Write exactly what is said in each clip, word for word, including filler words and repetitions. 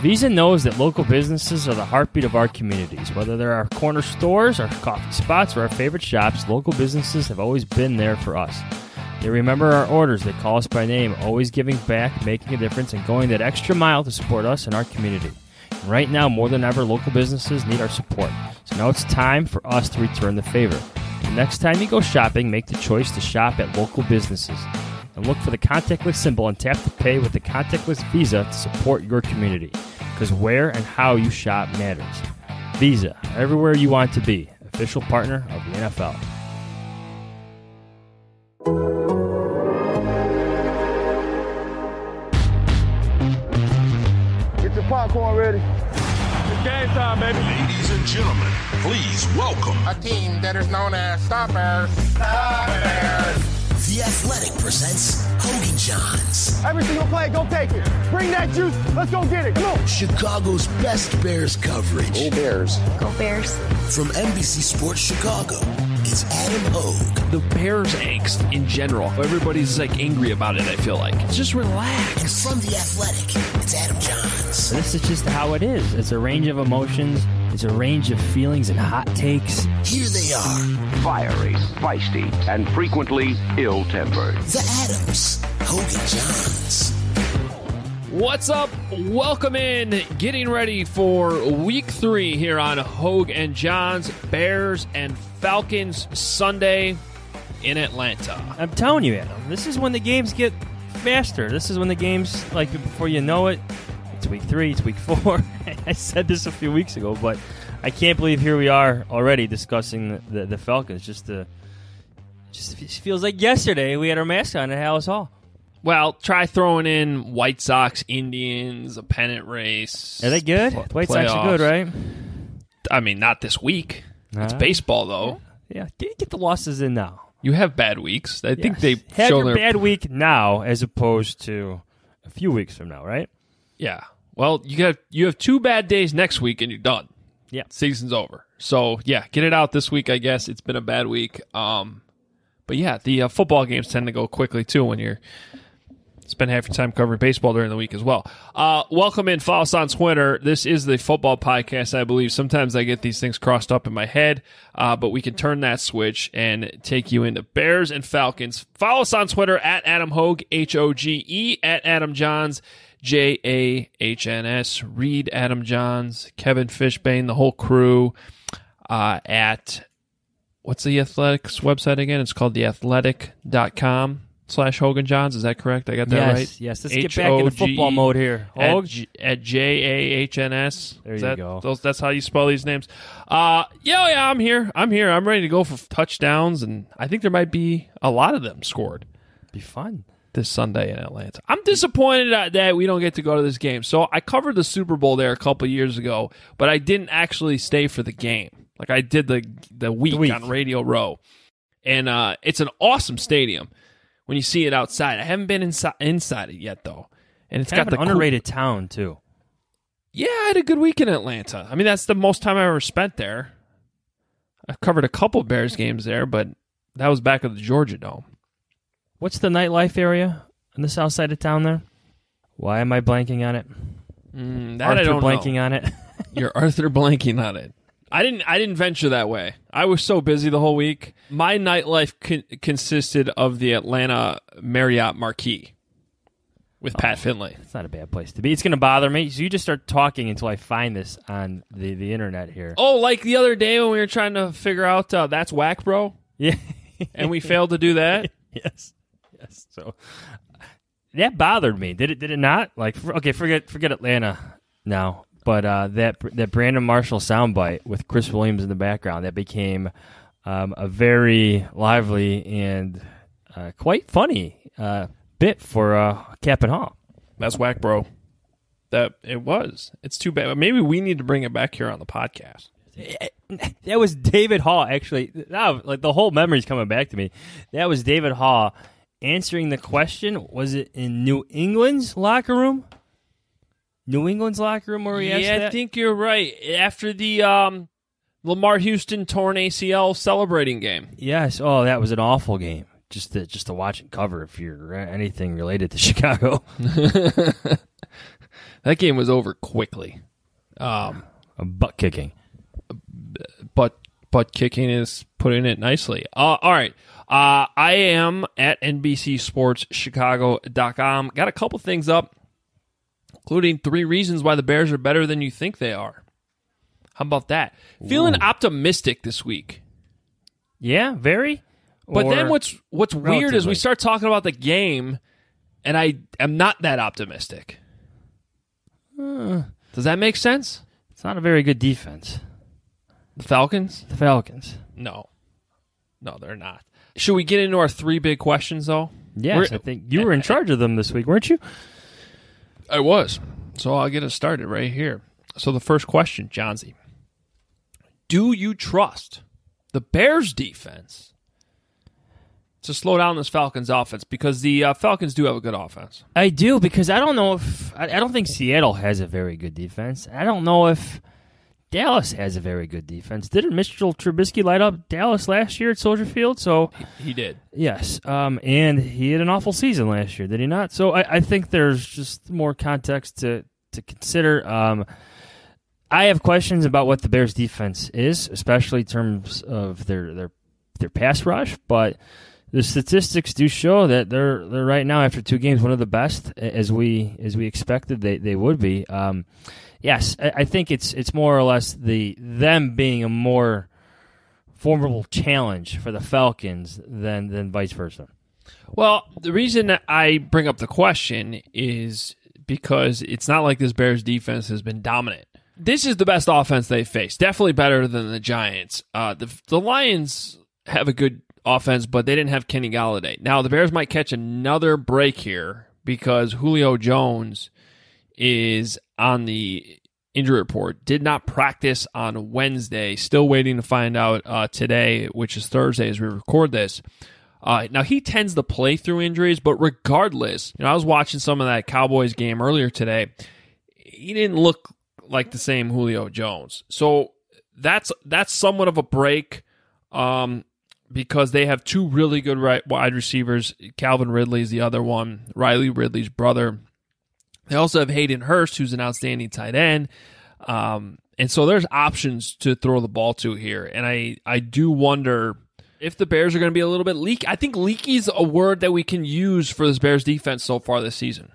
Visa knows that local businesses are the heartbeat of our communities. Whether they're our corner stores, our coffee spots, or our favorite shops, local businesses have always been there for us. They remember our orders, they call us by name, always giving back, making a difference, and going that extra mile to support us and our community. And right now, more than ever, local businesses need our support. So now it's time for us to return the favor. The next time you go shopping, make the choice to shop at local businesses. And look for the contactless symbol and tap to pay with the contactless Visa to support your community. Because where and how you shop matters. Visa, everywhere you want to be. Official partner of the N F L. Get your popcorn ready. It's game time, baby. Ladies and gentlemen, please welcome a team that is known as Stoppers. Stoppers. The Athletic presents Hogan Johns. Every single play, go take it. Bring that juice. Let's go get it. Come on. Chicago's best Bears coverage. Go Bears. Go Bears. From N B C Sports Chicago, it's Adam Hogue. The Bears angst in general. Everybody's like angry about it, I feel like. Just relax. And from The Athletic, it's Adam Johns. This is just how it is. It's a range of emotions. It's a range of feelings and hot takes. Here they are. Fiery, feisty, and frequently ill-tempered. The Adams. Hogan Johns. What's up? Welcome in. Getting ready for week three here on Hogue and Johns. Bears and Falcons Sunday in Atlanta. I'm telling you, Adam, this is when the games get faster. This is when the games, like, before you know it, it's week three, it's week four. I said this a few weeks ago, but I can't believe here we are already discussing the, the, the Falcons. Just the, just feels like yesterday we had our mascot at Hallis Hall. Well, try throwing in White Sox, Indians, a pennant race. Are they good? Pl- White Sox are good, right? I mean, not this week. Uh, it's baseball, though. Yeah, get, get the losses in now. You have bad weeks. I yes. think they have show your their bad week now as opposed to a few weeks from now, right? Yeah. Well, you got you have two bad days next week and you're done. Yeah. Season's over. So, yeah, get it out this week, I guess. It's been a bad week. Um, but, yeah, the uh, football games tend to go quickly, too, when you're spend half your time covering baseball during the week as well. Uh, welcome in. Follow us on Twitter. This is the football podcast, I believe. Sometimes I get these things crossed up in my head, uh, but we can turn that switch and take you into Bears and Falcons. Follow us on Twitter at Adam Hogue, H O G E, at Adam Johns, J A H N S. Read Adam Johns, Kevin Fishbane, the whole crew uh, at, what's the Athletics website again? It's called the athletic dot com. Slash Hogan Johns, is that correct? I got that yes, right? Yes, let's get back into football mode here. At, G- at J A H N S. There is you that, go. Those, that's how you spell these names. Uh, yeah, yeah, I'm here. I'm here. I'm ready to go for touchdowns, and I think there might be a lot of them scored. Be fun. This Sunday in Atlanta. I'm disappointed that we don't get to go to this game. So I covered the Super Bowl there a couple years ago, but I didn't actually stay for the game. Like I did the, the, week, the week on Radio Row. And uh, it's an awesome stadium. When you see it outside. I haven't been inside inside it yet, though. And it's kind got of the an underrated cool... town, too. Yeah, I had a good week in Atlanta. I mean, that's the most time I ever spent there. I've covered a couple Bears games there, but that was back at the Georgia Dome. What's the nightlife area on the south side of town there? Why am I blanking on it? Mm, that Arthur I don't blanking know. on it. You're Arthur blanking on it. I didn't. I didn't venture that way. I was so busy the whole week. My nightlife con- consisted of the Atlanta Marriott Marquis with oh, Pat Finley. It's not a bad place to be. It's going to bother me. So you just start talking until I find this on the, the internet here. Oh, like the other day when we were trying to figure out uh, that's whack, bro. Yeah, and we failed to do that. Yes, yes. So that bothered me. Did it? Did it not? Like, for, okay, forget forget Atlanta now. But uh, that that Brandon Marshall soundbite with Chris Williams in the background, that became um, a very lively and uh, quite funny uh, bit for uh, Cap and Hall. That's whack, bro. That it was. It's too bad. Maybe we need to bring it back here on the podcast. That was David Hall, actually. Now, like the whole memory's coming back to me. That was David Hall answering the question. Was it in New England's locker room? New England's locker room where he asked Yeah, that? I think you're right. After the um, Lamar Houston torn A C L celebrating game. Yes. Oh, that was an awful game. Just to, just to watch and cover if you're anything related to Chicago. that game was over quickly. Um, A butt kicking. but but kicking is putting it nicely. Uh, all right. Uh, I am at N B C Sports Chicago dot com. Got a couple things up, including three reasons why the Bears are better than you think they are. How about that? Ooh. Feeling optimistic this week. Yeah, very. But or then what's what's relatively. weird is we start talking about the game, and I am not that optimistic. Uh, Does that make sense? It's not a very good defense. The Falcons? The Falcons. No. No, they're not. Should we get into our three big questions, though? Yes, we're, I think you were in charge of them this week, weren't you? I was. So I'll get us started right here. So the first question, Johnsy. Do you trust the Bears defense to slow down this Falcons offense? Because the uh, Falcons do have a good offense. I do, because I don't know if... I, I don't think Seattle has a very good defense. I don't know if Dallas has a very good defense. Didn't Mitchell Trubisky light up Dallas last year at Soldier Field? So He, he did. Yes, um, and he had an awful season last year, did he not? So I, I think there's just more context to, to consider. Um, I have questions about what the Bears' defense is, especially in terms of their their their pass rush, but the statistics do show that they're they're right now, after two games, one of the best, as we as we expected they, they would be. Um, yes, I, I think it's it's more or less the them being a more formidable challenge for the Falcons than than vice versa. Well, the reason that I bring up the question is because it's not like this Bears defense has been dominant. This is the best offense they've faced. Definitely better than the Giants. Uh, the the Lions have a good offense, but they didn't have Kenny Golladay. Now, the Bears might catch another break here because Julio Jones is on the injury report. Did not practice on Wednesday. Still waiting to find out uh, today, which is Thursday as we record this. Uh, now, he tends to play through injuries, but regardless, you know, I was watching some of that Cowboys game earlier today. He didn't look like the same Julio Jones. So that's that's somewhat of a break um, because they have two really good right, wide receivers. Calvin Ridley is the other one, Riley Ridley's brother. They also have Hayden Hurst, who's an outstanding tight end. Um, and so there's options to throw the ball to here. And I, I do wonder if the Bears are going to be a little bit leaky. I think leaky is a word that we can use for this Bears defense so far this season.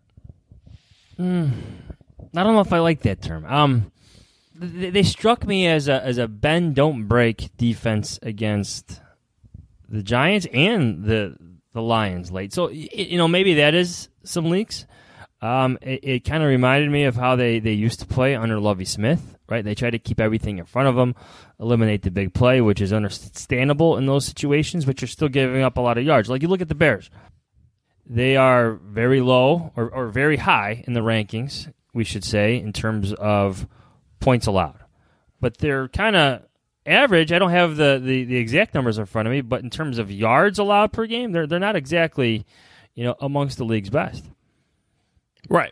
Mm. I don't know if I like that term. Um, they, they struck me as a as a bend don't break defense against the Giants and the the Lions late. So you know maybe that is some leaks. Um, it, it kind of reminded me of how they, they used to play under Lovie Smith. Right, they try to keep everything in front of them, eliminate the big play, which is understandable in those situations, but you're still giving up a lot of yards. Like you look at the Bears, they are very low or, or very high in the rankings, we should say, in terms of points allowed. But they're kind of average. I don't have the, the, the exact numbers in front of me, but in terms of yards allowed per game, they're they're not exactly, you know, amongst the league's best. Right.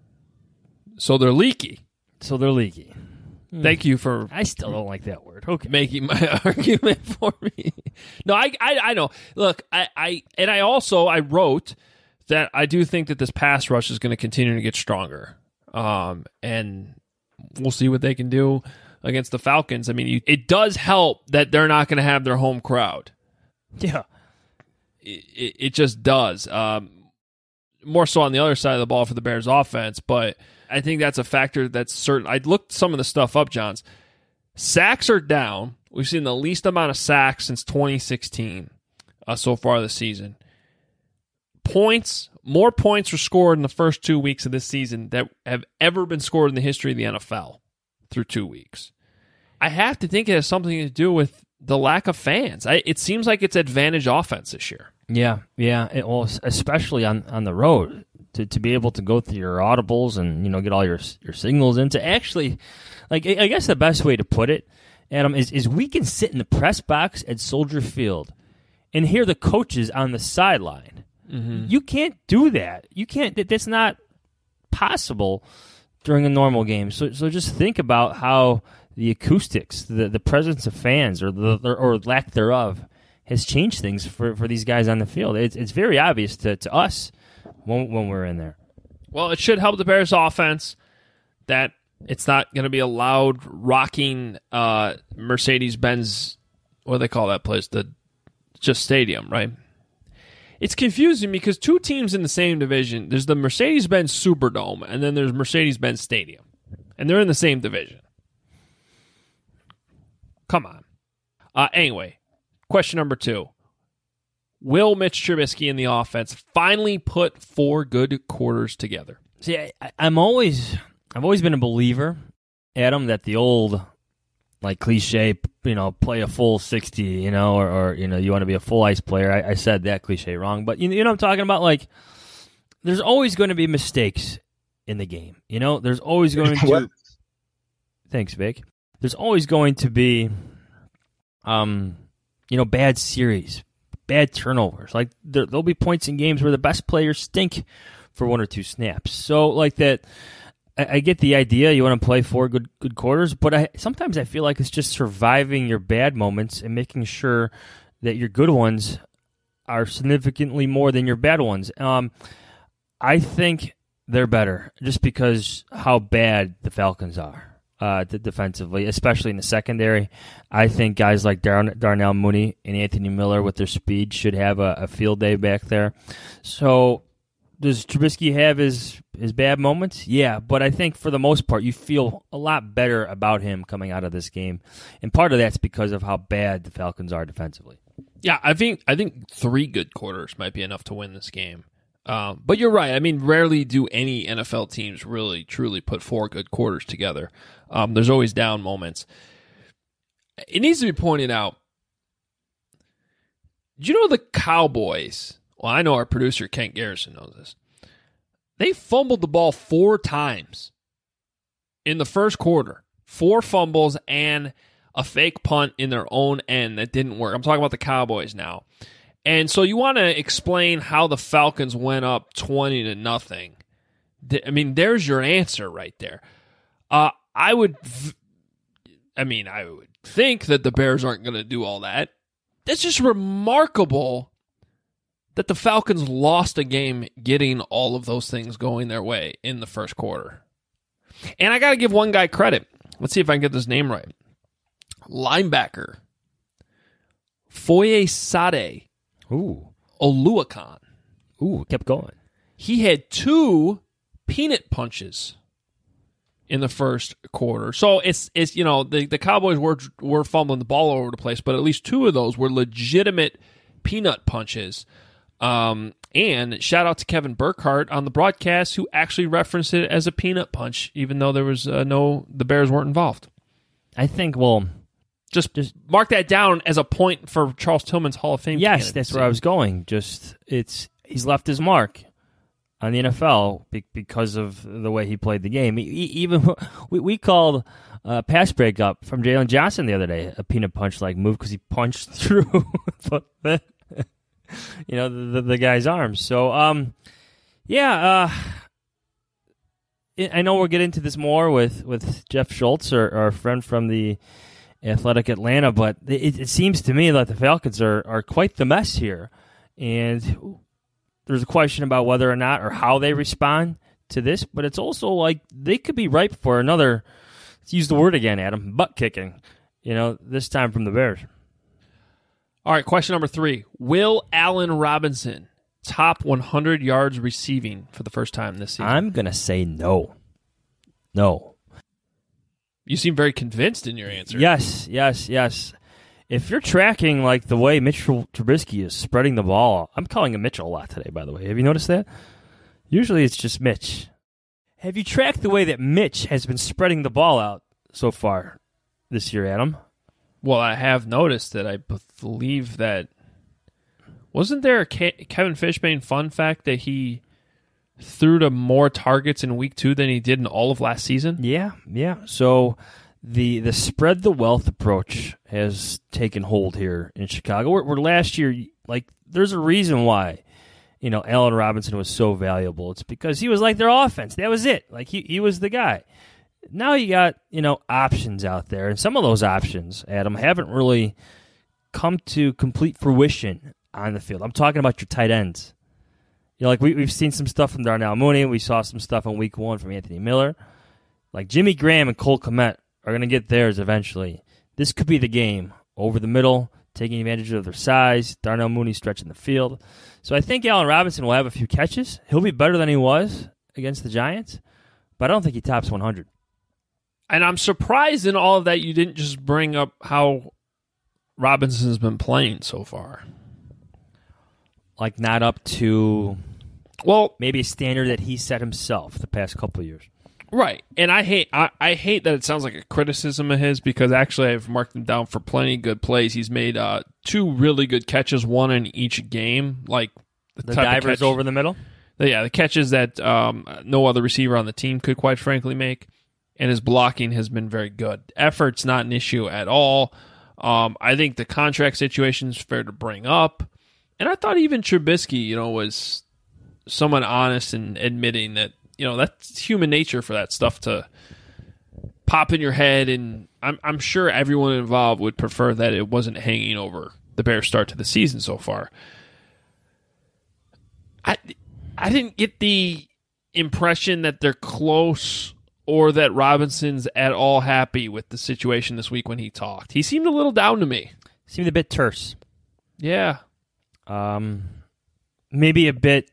So they're leaky. So they're leaky. Thank you for. I still don't like that word. Okay, making my argument for me. No, I, I, I know. Look, I, I, and I also I wrote that I do think that this pass rush is going to continue to get stronger. Um, and we'll see what they can do against the Falcons. I mean, you, it does help that they're not going to have their home crowd. Yeah, it, it, it just does. Um, more so on the other side of the ball for the Bears offense, but I think that's a factor that's certain. I looked some of the stuff up, Johns. Sacks are down. We've seen the least amount of sacks since twenty sixteen uh, so far this season. Points, more points were scored in the first two weeks of this season that have ever been scored in the history of the N F L through two weeks. I have to think it has something to do with the lack of fans. I, it seems like it's advantage offense this year. Yeah, yeah. It, well, especially on, on the road. To, to be able to go through your audibles and, you know, get all your your signals in, to actually, like, I guess the best way to put it, Adam, is, is we can sit in the press box at Soldier Field and hear the coaches on the sideline. Mm-hmm. You can't do that. You can't, that's not possible during a normal game. So so just think about how the acoustics, the, the presence of fans, or the or lack thereof, has changed things for, for these guys on the field. It's, it's very obvious to, to us when, when we're in there. Well, it should help the Bears' offense that it's not going to be a loud, rocking uh, Mercedes-Benz, what do they call that place? The just stadium, right? It's confusing because two teams in the same division, there's the Mercedes-Benz Superdome, and then there's Mercedes-Benz Stadium. And they're in the same division. Come on. Uh, anyway, question number two. Will Mitch Trubisky and the offense finally put four good quarters together? See, I, I'm always, I've always been a believer, Adam, that the old, like cliche, you know, play a full sixty, you know, or, or you know, you want to be a full ice player. I, I said that cliche wrong, but you, you know what I'm talking about? Like, there's always going to be mistakes in the game. You know, there's always going to. Thanks, Vic. There's always going to be, um, you know, bad series, bad turnovers. Like there, there'll be points in games where the best players stink for one or two snaps. So, like that, I, I get the idea. You want to play four good good quarters, but I sometimes I feel like it's just surviving your bad moments and making sure that your good ones are significantly more than your bad ones. Um, I think they're better just because how bad the Falcons are. Uh, defensively, especially in the secondary. I think guys like Dar- Darnell Mooney and Anthony Miller with their speed should have a, a field day back there. So does Trubisky have his, his bad moments? Yeah, but I think for the most part you feel a lot better about him coming out of this game. And part of that's because of how bad the Falcons are defensively. Yeah, I think I think three good quarters might be enough to win this game. Um, but you're right. I mean, rarely do any N F L teams really, truly put four good quarters together. Um, there's always down moments. It needs to be pointed out, do you know the Cowboys? Well, I know our producer, Kent Garrison, knows this. They fumbled the ball four times in the first quarter. Four fumbles and a fake punt in their own end that didn't work. I'm talking about the Cowboys now. And so you want to explain how the Falcons went up twenty to nothing. I mean, there's your answer right there. Uh, I would, I mean, I would think that the Bears aren't going to do all that. That's just remarkable that the Falcons lost a game getting all of those things going their way in the first quarter. And I got to give one guy credit. Let's see if I can get this name right. Linebacker Foyesade Ooh. Oluwakan. Ooh, kept going. He had two peanut punches in the first quarter. So it's it's you know the, the Cowboys were were fumbling the ball all over the place, but at least two of those were legitimate peanut punches. Um, and shout out to Kevin Burkhardt on the broadcast who actually referenced it as a peanut punch, even though there was uh, no the Bears weren't involved. I think well. Just, just mark that down as a point for Charles Tillman's Hall of Fame. Yes, candidacy. that's where I was going. Just it's he's left his mark on the N F L because of the way he played the game. He, even we, we called a pass breakup from Jalen Johnson the other day a peanut punch like move because he punched through the, you know the, the, the guy's arms. So um, yeah, uh, I know we'll get into this more with, with Jeff Schultz, our, our friend from the Athletic Atlanta, but it, it seems to me that the Falcons are, are quite the mess here. And there's a question about whether or not or how they respond to this, but it's also like they could be ripe for another, let's use the word again, Adam, butt kicking, you know, this time from the Bears. All right, question number three. Will Allen Robinson top one hundred yards receiving for the first time this season? I'm going to say no. No. You seem very convinced in your answer. Yes, yes, yes. If you're tracking like the way Mitchell Trubisky is spreading the ball, I'm calling him Mitchell a lot today, by the way. Have you noticed that? Usually it's just Mitch. Have you tracked the way that Mitch has been spreading the ball out so far this year, Adam? Well, I have noticed that. I believe that. Wasn't there a Ke- Kevin Fishbane fun fact that he threw to more targets in week two than he did in all of last season? Yeah, yeah. So the the spread the wealth approach has taken hold here in Chicago. Where, where last year, like, there's a reason why, you know, Allen Robinson was so valuable. It's because he was like their offense. That was it. Like, he, he was the guy. Now you got, you know, options out there. And some of those options, Adam, haven't really come to complete fruition on the field. I'm talking about your tight ends. You know, like we, we've seen some stuff from Darnell Mooney. We saw some stuff in week one from Anthony Miller. Like Jimmy Graham and Cole Kmet are going to get theirs eventually. This could be the game. Over the middle, taking advantage of their size. Darnell Mooney stretching the field. So I think Allen Robinson will have a few catches. He'll be better than he was against the Giants, but I don't think he tops one hundred. And I'm surprised in all of that you didn't just bring up how Robinson's been playing so far. Like not up to... Well, maybe a standard that he set himself the past couple of years. Right. And I hate I, I hate that it sounds like a criticism of his because actually I've marked him down for plenty of good plays. He's made uh, two really good catches, one in each game. Like The, the divers catch, over the middle? The, yeah, the catches that um, no other receiver on the team could quite frankly make. And his blocking has been very good. Effort's not an issue at all. Um, I think the contract situation is fair to bring up. And I thought even Trubisky, you know, was someone honest in admitting that, you know, that's human nature for that stuff to pop in your head. And I'm, I'm sure everyone involved would prefer that it wasn't hanging over the Bears' start to the season so far. I, I didn't get the impression that they're close or that Robinson's at all happy with the situation this week when he talked. He seemed a little down to me. Seemed a bit terse. Yeah. Um, maybe a bit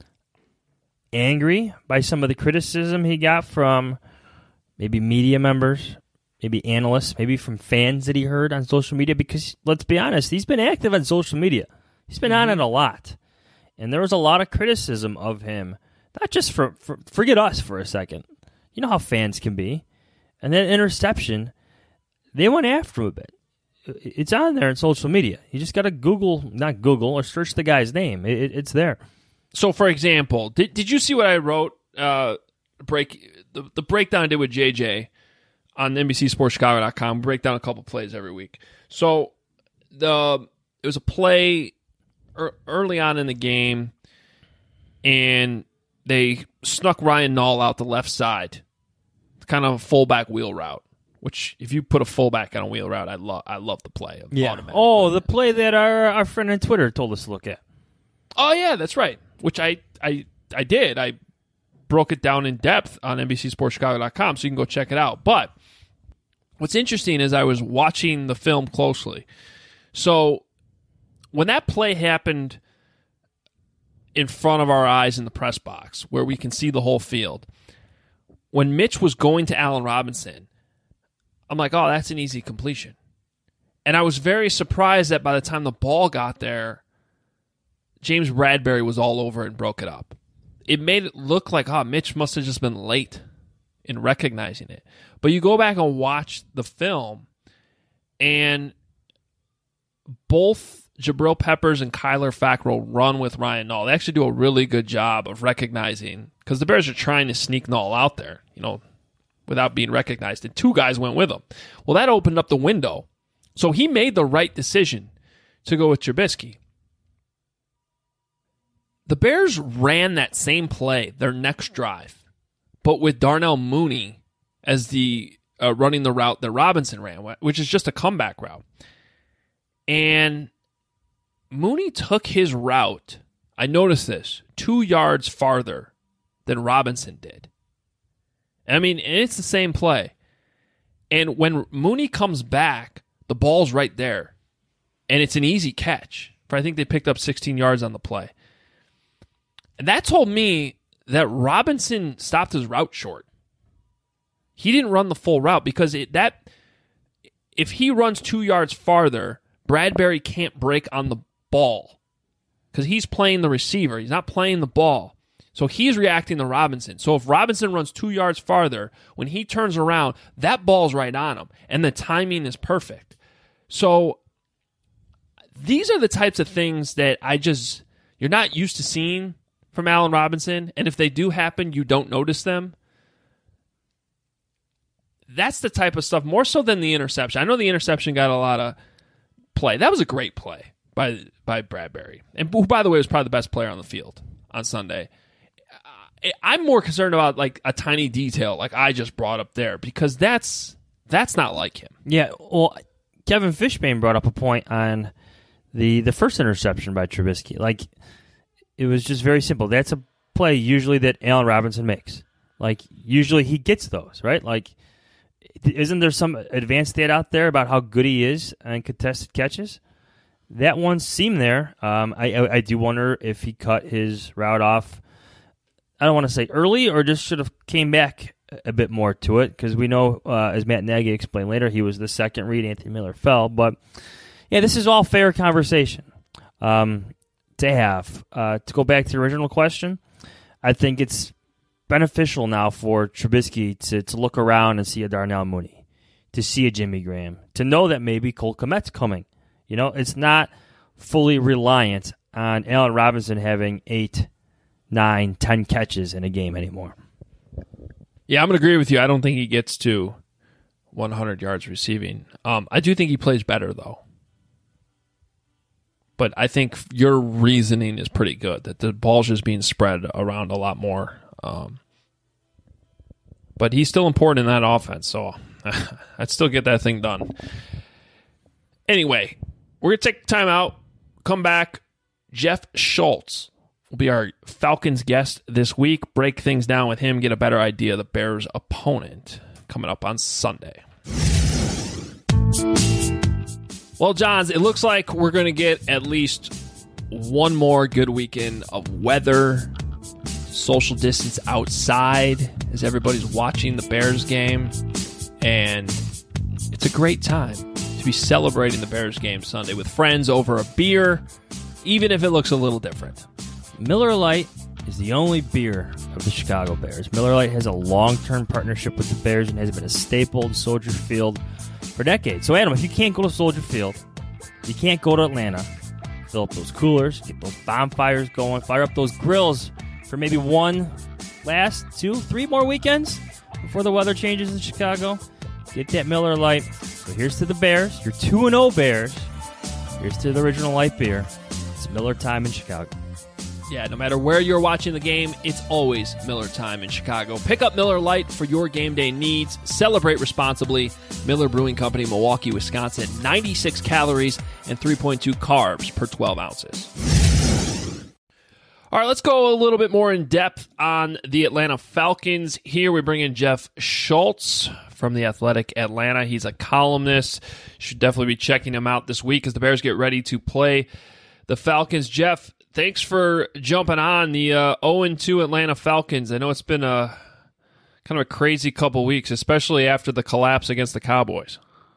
angry by some of the criticism he got from maybe media members, maybe analysts, maybe from fans that he heard on social media, because let's be honest, he's been active on social media. He's been mm-hmm. on it a lot. And there was a lot of criticism of him, not just for, for forget us for a second. You know how fans can be. And then interception, they went after him a bit. It's on there in social media. You just got to Google, not Google, or search the guy's name. It, it, it's there. So, for example, did did you see what I wrote? Uh, break the, the breakdown I did with J J on N B C Sports Chicago dot com. Break down a couple plays every week. So, the it was a play er, early on in the game, and they snuck Ryan Nall out the left side, kind of a fullback wheel route. Which, if you put a fullback on a wheel route, I love. I love the play. Yeah. Oh, the play that our our friend on Twitter told us to look at. Oh yeah, that's right. Which I I I did. I broke it down in depth on N B C Sports Chicago dot com, so you can go check it out. But what's interesting is I was watching the film closely. So when that play happened in front of our eyes in the press box, where we can see the whole field, when Mitch was going to Allen Robinson, I'm like, oh, that's an easy completion. And I was very surprised that by the time the ball got there, James Bradberry was all over it and broke it up. It made it look like, oh, Mitch must have just been late in recognizing it. But you go back and watch the film, and both Jabril Peppers and Kyler Fackrell run with Ryan Nall. They actually do a really good job of recognizing, because the Bears are trying to sneak Nall out there, you know, without being recognized, and two guys went with him. Well, that opened up the window. So he made the right decision to go with Trubisky. The Bears ran that same play, their next drive, but with Darnell Mooney as the uh, running the route that Robinson ran, which is just a comeback route. And Mooney took his route, I noticed this, two yards farther than Robinson did. I mean, it's the same play. And when Mooney comes back, the ball's right there. And it's an easy catch. For I think they picked up sixteen yards on the play. And that told me that Robinson stopped his route short. He didn't run the full route because it, that if he runs two yards farther, Bradberry can't break on the ball because he's playing the receiver. He's not playing the ball. So he's reacting to Robinson. So if Robinson runs two yards farther, when he turns around, that ball's right on him, and the timing is perfect. So these are the types of things that I just, you're not used to seeing from Allen Robinson, and if they do happen, you don't notice them. That's the type of stuff, more so than the interception. I know the interception got a lot of play. That was a great play by by Bradberry, and who, by the way, was probably the best player on the field on Sunday. I'm more concerned about like a tiny detail like I just brought up there, because that's that's not like him. Yeah, well, Kevin Fishbane brought up a point on the the first interception by Trubisky. Like, it was just very simple. That's a play usually that Allen Robinson makes. Like, usually he gets those, right? Like, isn't there some advanced stat out there about how good he is on contested catches? That one seemed there. Um, I, I, I do wonder if he cut his route off, I don't want to say early, or just should have came back a bit more to it, because we know, uh, as Matt Nagy explained later, he was the second read. Anthony Miller fell. But, yeah, this is all fair conversation um, to have. Uh, to go back to the original question, I think it's beneficial now for Trubisky to, to look around and see a Darnell Mooney, to see a Jimmy Graham, to know that maybe Cole Kmet's coming. You know, it's not fully reliant on Allen Robinson having eight, nine, ten catches in a game anymore. Yeah, I'm going to agree with you. I don't think he gets to one hundred yards receiving. Um, I do think he plays better, though. But I think your reasoning is pretty good, that the ball's just being spread around a lot more. Um, but he's still important in that offense, so I'd still get that thing done. Anyway, we're going to take time out, come back. Jeff Schultz will be our Falcons guest this week. Break things down with him, get a better idea of the Bears' opponent coming up on Sunday. Well, Johns, it looks like we're going to get at least one more good weekend of weather, social distance outside as everybody's watching the Bears game. And it's a great time to be celebrating the Bears game Sunday with friends over a beer, even if it looks a little different. Miller Lite is the only beer of the Chicago Bears. Miller Lite has a long-term partnership with the Bears and has been a staple in Soldier Field for decades. So, Adam, if you can't go to Soldier Field, you can't go to Atlanta, fill up those coolers, get those bonfires going, fire up those grills for maybe one, last, two, three more weekends before the weather changes in Chicago. Get that Miller Lite. So here's to the Bears, your two and oh Bears. Here's to the original light beer. It's Miller time in Chicago. Yeah, no matter where you're watching the game, it's always Miller time in Chicago. Pick up Miller Lite for your game day needs. Celebrate responsibly. Miller Brewing Company, Milwaukee, Wisconsin. ninety-six calories and three point two carbs per twelve ounces. All right, let's go a little bit more in depth on the Atlanta Falcons. Here we bring in Jeff Schultz from The Athletic Atlanta. He's a columnist. You should definitely be checking him out this week as the Bears get ready to play the Falcons. Jeff, thanks for jumping on the uh, oh and two Atlanta Falcons. I know it's been a kind of a crazy couple weeks, especially after the collapse against the Cowboys.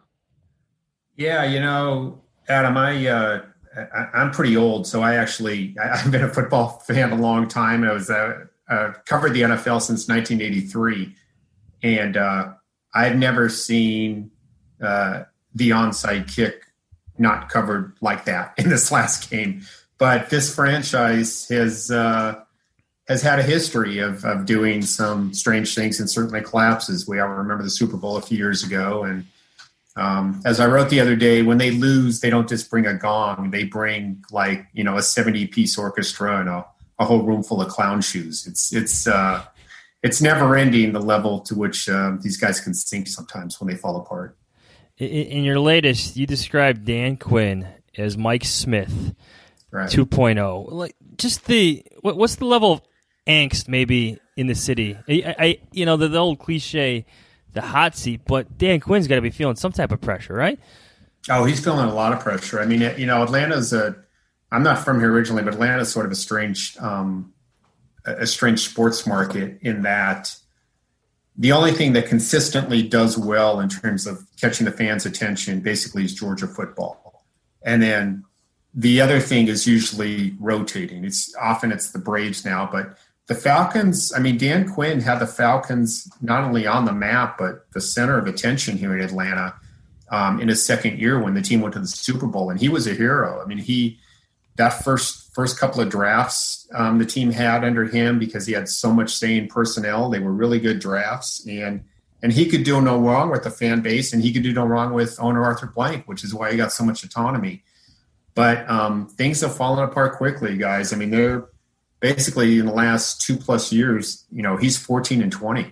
Yeah, you know, Adam, I, uh, I I'm pretty old, so I actually I, I've been a football fan a long time. I was uh, uh, covered the N F L since nineteen eighty-three, and uh, I've never seen uh, the onside kick not covered like that in this last game. But this franchise has uh, has had a history of of doing some strange things and certainly collapses. We all remember the Super Bowl a few years ago. And um, as I wrote the other day, when they lose, they don't just bring a gong. They bring like, you know, a seventy-piece orchestra and a, a whole room full of clown shoes. It's it's uh, it's never ending, the level to which uh, these guys can sink sometimes when they fall apart. In your latest, you described Dan Quinn as Mike Smith. Right. two point oh. Like, just the what, what's the level of angst maybe in the city? I, I you know the, the old cliche, the hot seat, but Dan Quinn's got to be feeling some type of pressure, right? Oh, he's feeling a lot of pressure. I mean, you know, Atlanta's a. I'm not from here originally, but Atlanta's sort of a strange, um, a strange sports market in that the only thing that consistently does well in terms of catching the fans' attention basically is Georgia football, and then the other thing is usually rotating. It's often it's the Braves now, but the Falcons, I mean, Dan Quinn had the Falcons not only on the map, but the center of attention here in Atlanta um, in his second year when the team went to the Super Bowl, and he was a hero. I mean, he, that first, first couple of drafts um, the team had under him, because he had so much say in personnel, they were really good drafts, and, and he could do no wrong with the fan base, and he could do no wrong with owner Arthur Blank, which is why he got so much autonomy. But um, things have fallen apart quickly, guys. I mean, they're basically in the last two plus years, you know, he's fourteen and twenty.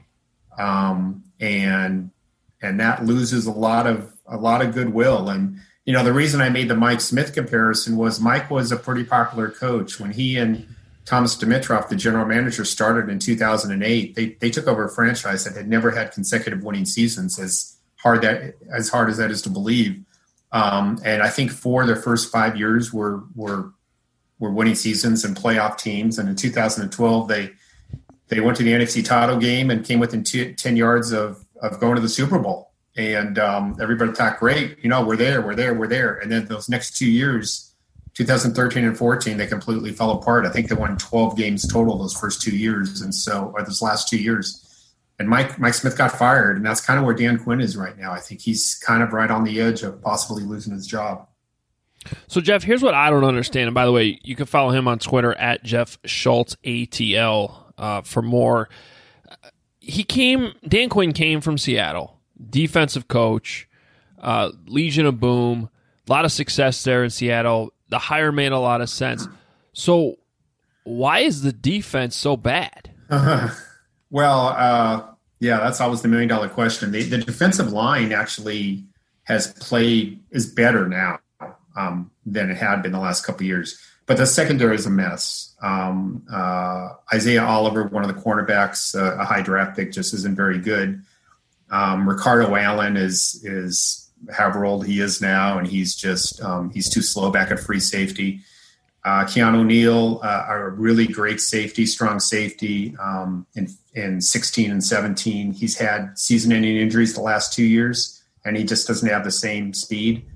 Um, and, and that loses a lot of, a lot of goodwill. And, you know, the reason I made the Mike Smith comparison was Mike was a pretty popular coach when he and Thomas Dimitroff, the general manager, started in two thousand eight. They they took over a franchise that had never had consecutive winning seasons. As hard that as hard as that is to believe, um, and I think four of their first five years were were were winning seasons and playoff teams. And in two thousand twelve, they they went to the N F C title game and came within two, ten yards of of going to the Super Bowl. And um, everybody thought, great, you know, we're there, we're there, we're there. And then those next two years, two thousand thirteen and fourteen, they completely fell apart. I think they won twelve games total those first two years, and so or those last two years. And Mike Mike Smith got fired, and that's kind of where Dan Quinn is right now. I think he's kind of right on the edge of possibly losing his job. So, Jeff, here's what I don't understand. And by the way, you can follow him on Twitter at Jeff Schultz A T L uh, for more. He came, Dan Quinn came from Seattle, defensive coach, uh, Legion of Boom, a lot of success there in Seattle. The hire made a lot of sense. So, why is the defense so bad? Uh, well, uh, yeah, that's always the million dollar question. The, the defensive line actually has played is better now um, than it had been the last couple of years. But the secondary is a mess. Um, uh, Isaiah Oliver, one of the cornerbacks, uh, a high draft pick, just isn't very good. Um, Ricardo Allen is is however old he is now, and he's just um, he's too slow back at free safety. Uh, Keanu Neal, uh, a really great safety, strong safety um, in in sixteen and seventeen. He's had season-ending injuries the last two years, and he just doesn't have the same speed.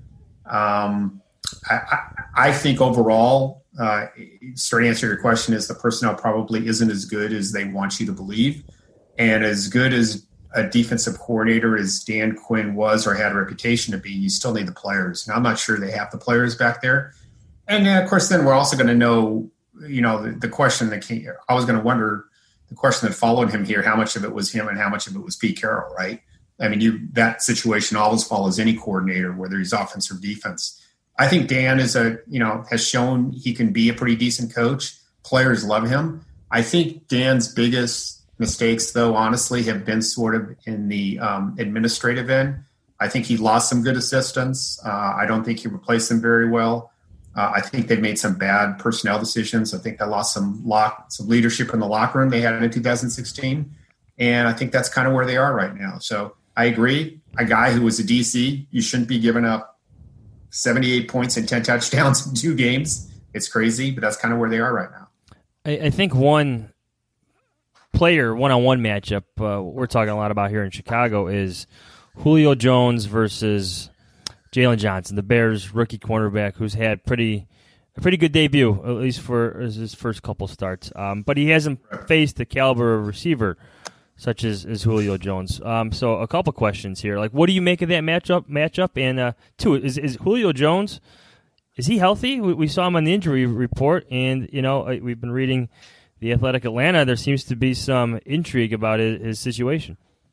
Um, I, I, I think overall, uh, straight answer to your question is the personnel probably isn't as good as they want you to believe. And as good as a defensive coordinator as Dan Quinn was or had a reputation to be, you still need the players. And I'm not sure they have the players back there. And uh, of course, then we're also going to know, you know, the, the question that came, I was going to wonder the question that followed him here, how much of it was him and how much of it was Pete Carroll, right? I mean, you that situation always follows any coordinator, whether he's offense or defense. I think Dan is a, you know, has shown he can be a pretty decent coach. Players love him. I think Dan's biggest mistakes, though, honestly, have been sort of in the um, administrative end. I think he lost some good assistants. Uh, I don't think he replaced them very well. Uh, I think they've made some bad personnel decisions. I think they lost some lock, some leadership in the locker room they had in two thousand sixteen. And I think that's kind of where they are right now. So I agree. A guy who was a D C, you shouldn't be giving up seventy-eight points and ten touchdowns in two games. It's crazy, but that's kind of where they are right now. I, I think one player one-on-one matchup uh, we're talking a lot about here in Chicago is Julio Jones versus Jalen Johnson, the Bears rookie cornerback who's had pretty a pretty good debut, at least for his first couple starts. Um, but he hasn't faced the caliber of receiver such as, as Julio Jones. Um, so a couple questions here. Like, what do you make of that matchup? Matchup and uh, two is is Julio Jones, is he healthy? We, we saw him on the injury report, and you know we've been reading the Athletic Atlanta. There seems to be some intrigue about his, his situation.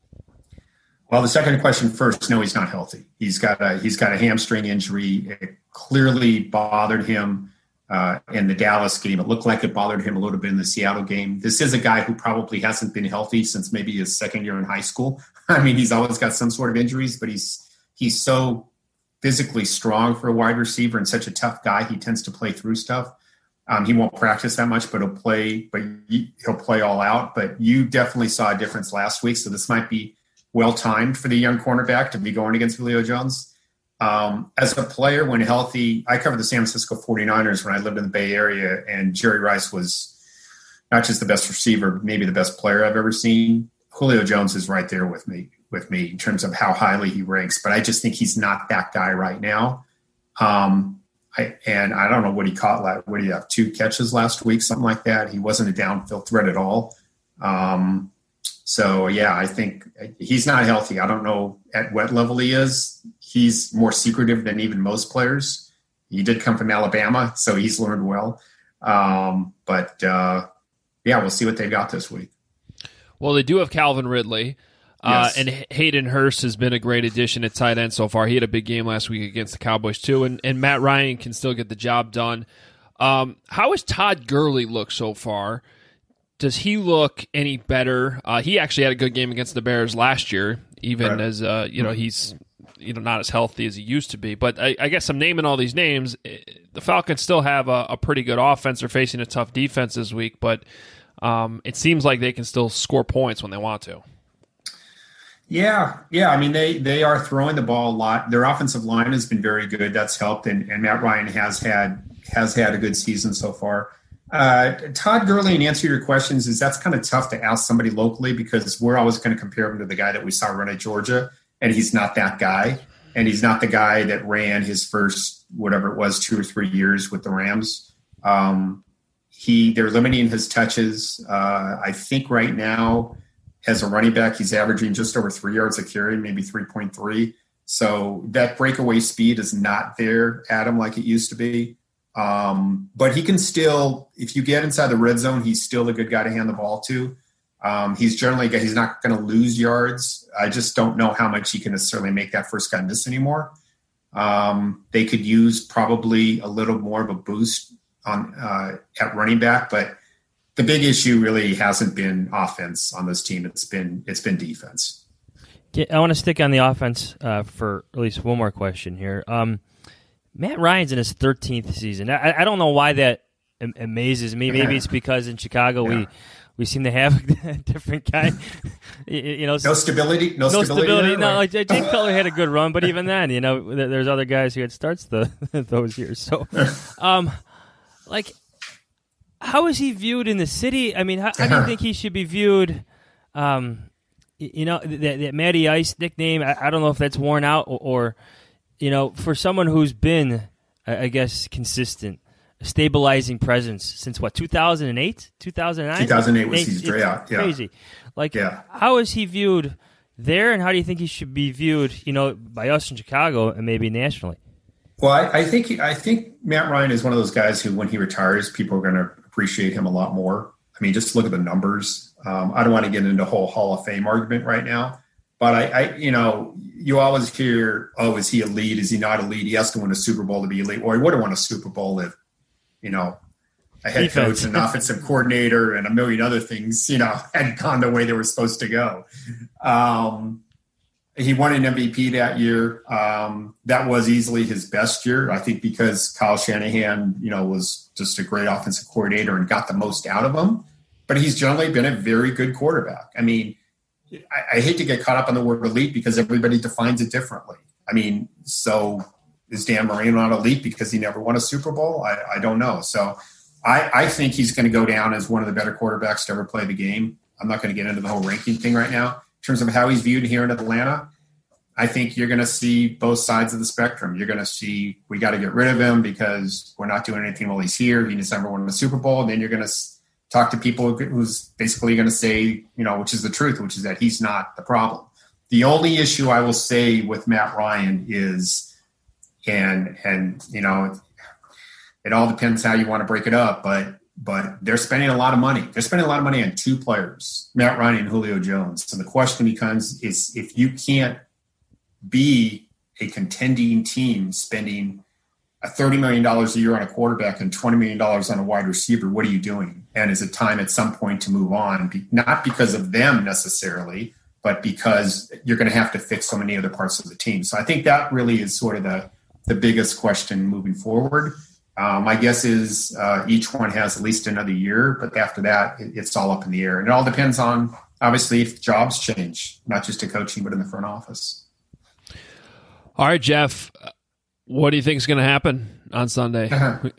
Well, the second question first. No, he's not healthy. He's got a he's got a hamstring injury. It clearly bothered him uh, in the Dallas game. It looked like it bothered him a little bit in the Seattle game. This is a guy who probably hasn't been healthy since maybe his second year in high school. I mean, he's always got some sort of injuries, but he's he's so physically strong for a wide receiver and such a tough guy. He tends to play through stuff. Um, he won't practice that much, but he'll play. But he'll play all out. But you definitely saw a difference last week, so this might be well timed for the young cornerback to be going against Julio Jones. Um, as a player, when healthy, I covered the San Francisco forty-niners when I lived in the Bay Area, and Jerry Rice was not just the best receiver, maybe the best player I've ever seen. Julio Jones is right there with me, with me in terms of how highly he ranks, but I just think he's not that guy right now. Um, I, and I don't know what he caught. Like, what do you have? Two catches last week, something like that. He wasn't a downfield threat at all. Um, So, yeah, I think he's not healthy. I don't know at what level he is. He's more secretive than even most players. He did come from Alabama, so he's learned well. Um, but, uh, yeah, we'll see what they got this week. Well, they do have Calvin Ridley. Uh, Yes. and Hayden Hurst has been a great addition at tight end so far. He had a big game last week against the Cowboys, too. And, and Matt Ryan can still get the job done. Um, how has Todd Gurley looked so far? Does he look any better? Uh, he actually had a good game against the Bears last year, even right. as uh, you know he's you know, not as healthy as he used to be. But I, I guess I'm naming all these names. The Falcons still have a, a pretty good offense. They're facing a tough defense this week, but um, it seems like they can still score points when they want to. Yeah, yeah. I mean, they they are throwing the ball a lot. Their offensive line has been very good. That's helped, and, and Matt Ryan has had has had a good season so far. Uh, Todd Gurley, in answer to your questions, is that's kind of tough to ask somebody locally because we're always going to compare him to the guy that we saw run at Georgia, and he's not that guy, and he's not the guy that ran his first whatever it was two or three years with the Rams. Um, he they're limiting his touches. Uh, I think right now, as a running back, he's averaging just over three yards a carry, maybe three point three. So that breakaway speed is not there, Adam, like it used to be. Um, but he can still, if you get inside the red zone, he's still a good guy to hand the ball to. Um, he's generally, he's not going to lose yards. I just don't know how much he can necessarily make that first guy miss anymore. Um, they could use probably a little more of a boost on uh, at running back, but the big issue really hasn't been offense on this team. It's been it's been defense. I want to stick on the offense uh, for at least one more question here. Um, Matt Ryan's in his thirteenth season. I, I don't know why that am- amazes me. Maybe it's because in Chicago yeah. we we seem to have a different guy. you, you know, no stability. No, no stability. stability there, no, right? like Jake Cutler had a good run, but even then, you know, there's other guys who had starts the those years. So, um, like. How is he viewed in the city? I mean, how, how do you think he should be viewed? Um, you know, that, that Matty Ice nickname, I, I don't know if that's worn out or, or, you know, for someone who's been, I guess, consistent, a stabilizing presence since, what, two thousand eight? two thousand nine? two thousand eight was his draft, yeah. Crazy. Like, yeah. How is he viewed there, and how do you think he should be viewed, you know, by us in Chicago and maybe nationally? Well, I, I think I think Matt Ryan is one of those guys who, when he retires, people are going to appreciate him a lot more. I mean, just look at the numbers. Um, I don't want to get into a whole Hall of Fame argument right now, but I, I, you know, you always hear, oh, is he elite? Is he not elite? He has to win a Super Bowl to be elite. Or he would have won a Super Bowl if, you know, a head Defense. coach and an offensive coordinator and a million other things, you know, had gone the way they were supposed to go. Um, He won an M V P that year. Um, that was easily his best year, I think, because Kyle Shanahan, you know, was just a great offensive coordinator and got the most out of him. But he's generally been a very good quarterback. I mean, I, I hate to get caught up on the word elite because everybody defines it differently. I mean, so is Dan Marino not elite because he never won a Super Bowl? I, I don't know. So I, I think he's going to go down as one of the better quarterbacks to ever play the game. I'm not going to get into the whole ranking thing right now. In terms of how he's viewed here in Atlanta, I think you're going to see both sides of the spectrum. You're going to see we got to get rid of him because we're not doing anything while he's here. He never won the Super Bowl. And then you're going to talk to people who's basically going to say, you know, which is the truth, which is that he's not the problem. The only issue I will say with Matt Ryan is, and and you know, it, it all depends how you want to break it up, but but they're spending a lot of money. They're spending a lot of money on two players, Matt Ryan and Julio Jones. So the question becomes is if you can't be a contending team spending a thirty million dollars a year on a quarterback and twenty million dollars on a wide receiver, what are you doing? And is it time at some point to move on? Be, not because of them necessarily, but because you're going to have to fix so many other parts of the team. So I think that really is sort of the, the biggest question moving forward. Um, my guess is uh, each one has at least another year, but after that, it, it's all up in the air. And it all depends on, obviously, if jobs change, not just to coaching, but in the front office. All right, Jeff, what do you think is going to happen on Sunday?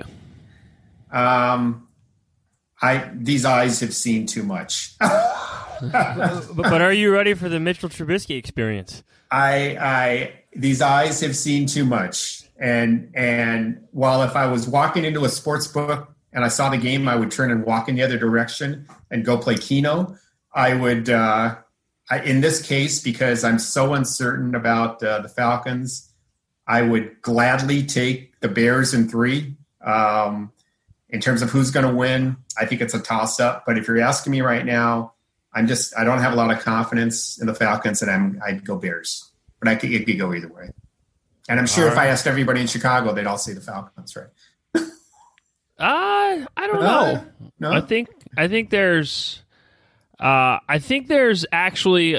um, I these eyes have seen too much. but, but are you ready for the Mitchell Trubisky experience? I, I these eyes have seen too much, and and while if I was walking into a sports book and I saw the game, I would turn and walk in the other direction and go play Keno. I would. Uh, I, in this case, because I'm so uncertain about uh, the Falcons, I would gladly take the Bears in three. Um, in terms of who's going to win, I think it's a toss-up. But if you're asking me right now, I'm just I don't have a lot of confidence in the Falcons, and I'm I'd go Bears. But I could, it could go either way. And I'm sure all if right. I asked everybody in Chicago, they'd all say the Falcons, right? Uh, I don't No. know. No? I think I think there's uh, I think there's actually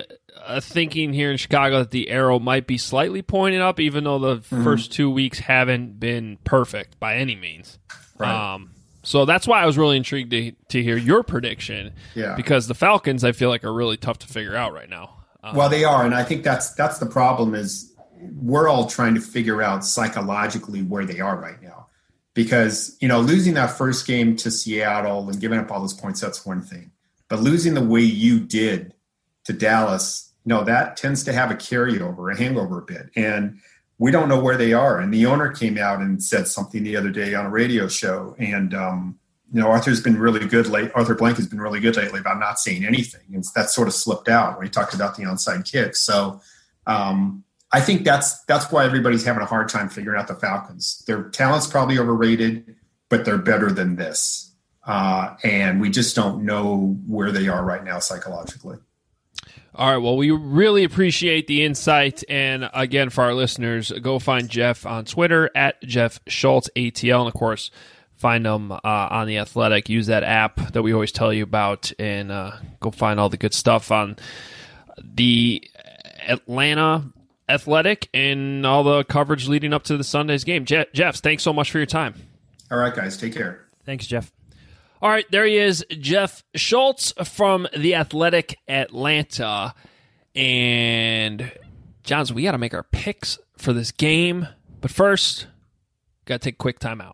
uh, thinking here in Chicago that the arrow might be slightly pointed up, even though the mm-hmm. first two weeks haven't been perfect by any means. Right. Um, so that's why I was really intrigued to to hear your prediction. Yeah. Because the Falcons, I feel like, are really tough to figure out right now. Um, well, they are, and I think that's that's the problem is we're all trying to figure out psychologically where they are right now. Because, you know, losing that first game to Seattle and giving up all those points, that's one thing. But losing the way you did to Dallas, no, that tends to have a carryover, a hangover a bit. And we don't know where they are. And the owner came out and said something the other day on a radio show. And, um, you know, Arthur's been really good late. Arthur Blank has been really good lately about not saying anything. And that sort of slipped out when he talked about the onside kick. So um, I think that's that's why everybody's having a hard time figuring out the Falcons. Their talent's probably overrated, but they're better than this. Uh, and we just don't know where they are right now psychologically. All right, well, we really appreciate the insight. And again, for our listeners, go find Jeff on Twitter at Jeff Schultz A T L. And of course, find him uh, on The Athletic. Use that app that we always tell you about, and uh, go find all the good stuff on the Atlanta Athletic and all the coverage leading up to the Sunday's game. Je- Jeff, thanks so much for your time. All right, guys, take care. Thanks, Jeff. All right, there he is, Jeff Schultz from The Athletic Atlanta. And, Johns, we got to make our picks for this game. But first, got to take a quick timeout.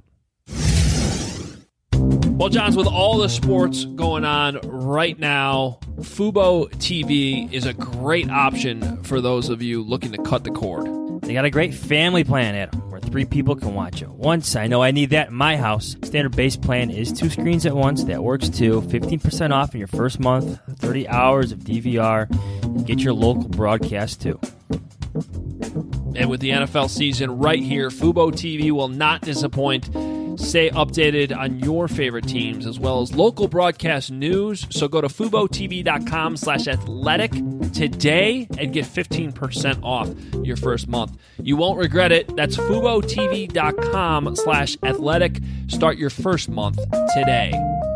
Well, Johns, with all the sports going on right now, Fubo T V is a great option for those of you looking to cut the cord. They got a great family plan, Adam, where three people can watch it once. I know I need that in my house. Standard base plan is two screens at once. That works too. fifteen percent off in your first month, thirty hours of D V R. Get your local broadcast too. And with the N F L season right here, Fubo T V will not disappoint. Stay updated on your favorite teams as well as local broadcast news. So go to FuboTV.com slash athletic today and get fifteen percent off your first month. You won't regret it. That's FuboTV.com slash athletic. Start your first month today.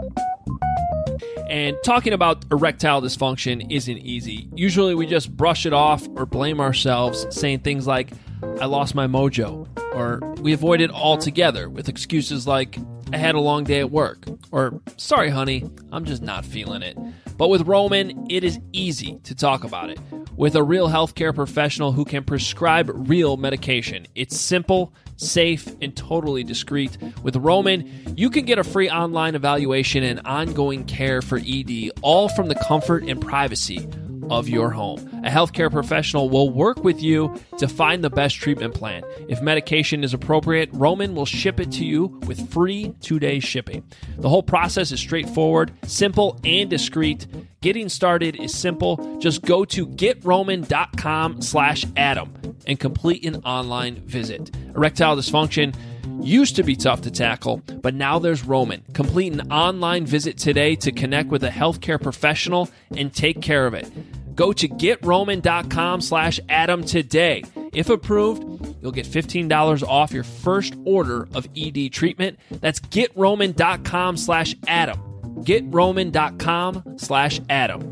And talking about erectile dysfunction isn't easy. Usually we just brush it off or blame ourselves, saying things like, I lost my mojo, or we avoid it altogether with excuses like, I had a long day at work, or sorry, honey, I'm just not feeling it. But with Roman, it is easy to talk about it. With a real healthcare professional who can prescribe real medication. It's simple, safe, and totally discreet. With Roman, you can get a free online evaluation and ongoing care for E D, all from the comfort and privacy of your home. A healthcare professional will work with you to find the best treatment plan. If medication is appropriate, Roman will ship it to you with free two-day shipping. The whole process is straightforward, simple, and discreet. Getting started is simple. Just go to getroman.com slash Adam and complete an online visit. Erectile dysfunction used to be tough to tackle, but now there's Roman. Complete an online visit today to connect with a healthcare professional and take care of it. Go to getroman.com slash Adam today. If approved, you'll get fifteen dollars off your first order of E D treatment. That's getroman.com slash Adam. getroman.com slash Adam.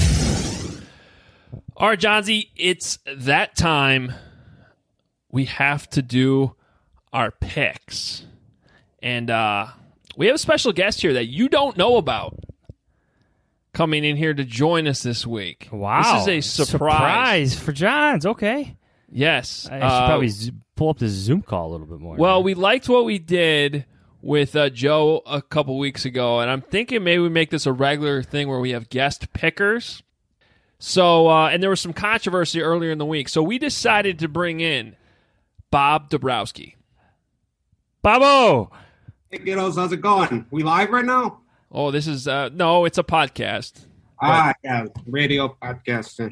All right, Johnsy, it's that time. We have to do our picks. And uh, we have a special guest here that you don't know about coming in here to join us this week. Wow. This is a surprise. Surprise for Johns. Okay. Yes. I should uh, probably z- pull up the Zoom call a little bit more. Well, man. we liked what we did with uh, Joe a couple weeks ago, and I'm thinking maybe we make this a regular thing where we have guest pickers. So, uh, and there was some controversy earlier in the week, so we decided to bring in Bob Dabrowski. Bobbo! Hey, kiddos, how's it going? We live right now? Oh, this is, uh, no, it's a podcast. Ah, yeah, radio podcast.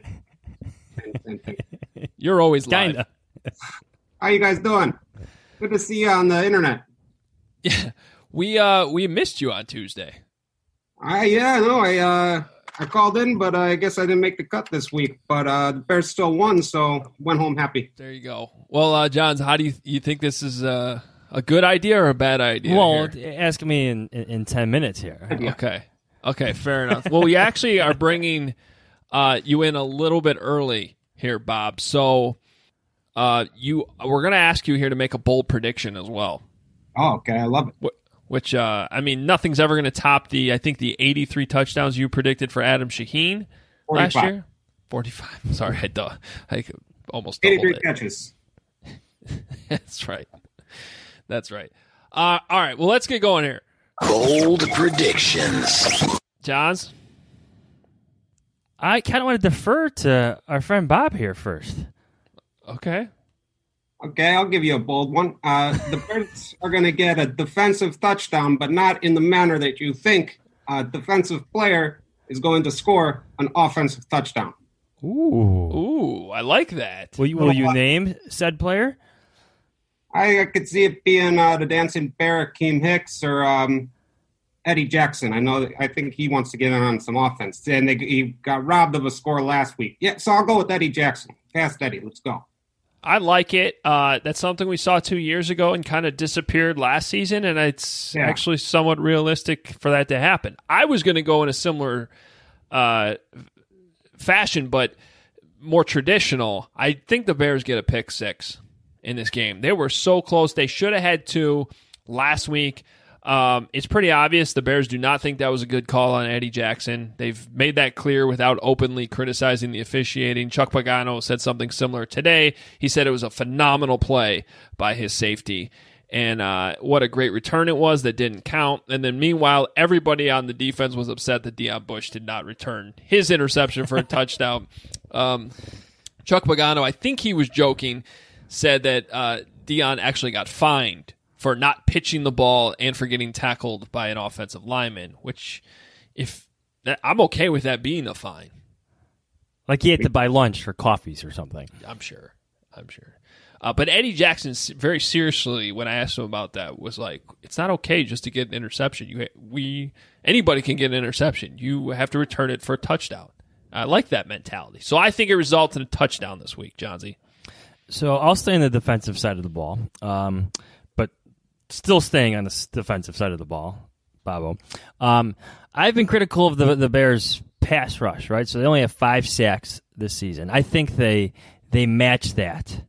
You're always live. Kinda. How you guys doing? Good to see you on the internet. Yeah, we uh we missed you on Tuesday. I yeah, no, I uh I called in, but uh, I guess I didn't make the cut this week. But uh, the Bears still won, so went home happy. There you go. Well, uh, Johns, how do you you think this is uh, a good idea or a bad idea? Well, here? ask me in, in, in ten minutes here. Okay. Okay, fair enough. Well, we actually are bringing Uh, you in a little bit early here, Bob. So uh, you we're going to ask you here to make a bold prediction as well. Oh, okay. I love it. Which, uh, I mean, nothing's ever going to top the, I think, the eighty-three touchdowns you predicted for Adam Shaheen last year. forty-five. Sorry, I, duh, I almost doubled eighty-three it. catches. That's right. That's right. Uh, all right, well, let's get going here. Bold predictions. Johns? I kind of want to defer to our friend Bob here first. Okay. Okay, I'll give you a bold one. Uh, the Bears are going to get a defensive touchdown, but not in the manner that you think a defensive player is going to score an offensive touchdown. Ooh. Ooh, I like that. Will you, will you name said player? I, I could see it being uh, the Dancing Bear, Akeem Hicks, or um, Eddie Jackson. I know. I think he wants to get in on some offense, and they, he got robbed of a score last week. Yeah, so I'll go with Eddie Jackson. Fast Eddie, let's go. I like it. Uh, that's something we saw two years ago and kind of disappeared last season, and it's Yeah. actually somewhat realistic for that to happen. I was going to go in a similar uh, fashion, but more traditional. I think the Bears get a pick six in this game. They were so close. They should have had two last week. Um, it's pretty obvious the Bears do not think that was a good call on Eddie Jackson. They've made that clear without openly criticizing the officiating. Chuck Pagano said something similar today. He said it was a phenomenal play by his safety. And uh, what a great return it was that didn't count. And then meanwhile, everybody on the defense was upset that Deion Bush did not return his interception for a touchdown. Um, Chuck Pagano, I think he was joking, said that uh, Deion actually got fined for not pitching the ball and for getting tackled by an offensive lineman, which if that, I'm okay with that being a fine. Like he had to buy lunch for coffees or something. I'm sure. I'm sure. Uh, but Eddie Jackson, very seriously, when I asked him about that, was like, it's not okay just to get an interception. You, we, anybody can get an interception. You have to return it for a touchdown. I like that mentality. So I think it results in a touchdown this week, Johnsy. So I'll stay on the defensive side of the ball. Um, but still staying on the defensive side of the ball, Bobo. Um, I've been critical of the the Bears' pass rush, right? So they only have five sacks this season. I think they they match that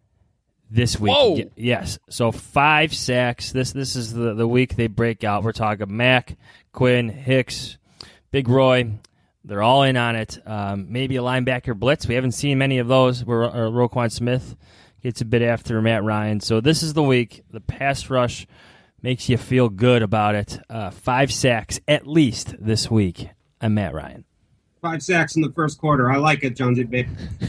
this week. Whoa. Yes. So five sacks. This this is the, the week they break out. We're talking Mack, Quinn, Hicks, Big Roy. They're all in on it. Um, maybe a linebacker blitz. We haven't seen many of those where uh, Roquan Smith gets a bit after Matt Ryan. So this is the week. The pass rush makes you feel good about it. Uh, five sacks at least this week on Matt Ryan. Five sacks in the first quarter. I like it, Jonesy, babe.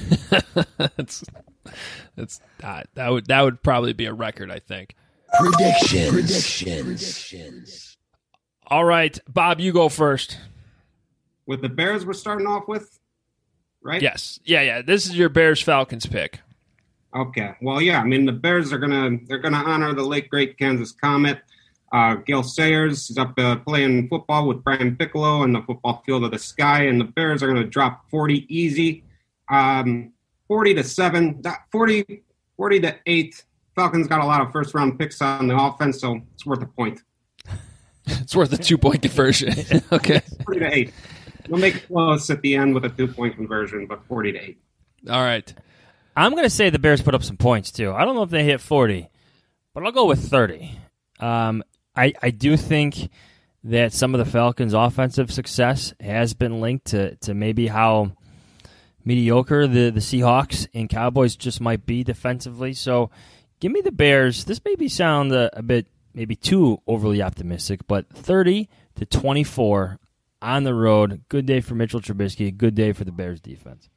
That's, that's, uh, that would that would probably be a record, I think. Predictions. Predictions. Predictions. All right, Bob, you go first. With the Bears we're starting off with, right? Yes. Yeah, yeah. This is your Bears-Falcons pick. Okay. Well, yeah. I mean, the Bears are gonna they're gonna honor the late great Kansas Comet. Uh, Gil Sayers is up uh, playing football with Brian Piccolo in the football field of the sky, and the Bears are gonna drop forty easy, um, forty to seven, forty, forty to eight. Falcons got a lot of first round picks on the offense, so it's worth a point. It's worth a two point conversion. Okay. Forty to eight. We'll make it close at the end with a two-point conversion, but forty to eight. All right. I'm going to say the Bears put up some points, too. I don't know if they hit forty, but I'll go with thirty. Um, I, I do think that some of the Falcons' offensive success has been linked to, to maybe how mediocre the, the Seahawks and Cowboys just might be defensively. So give me the Bears. This maybe sound a, a bit maybe too overly optimistic, but thirty to twenty-four on the road. Good day for Mitchell Trubisky. Good day for the Bears defense.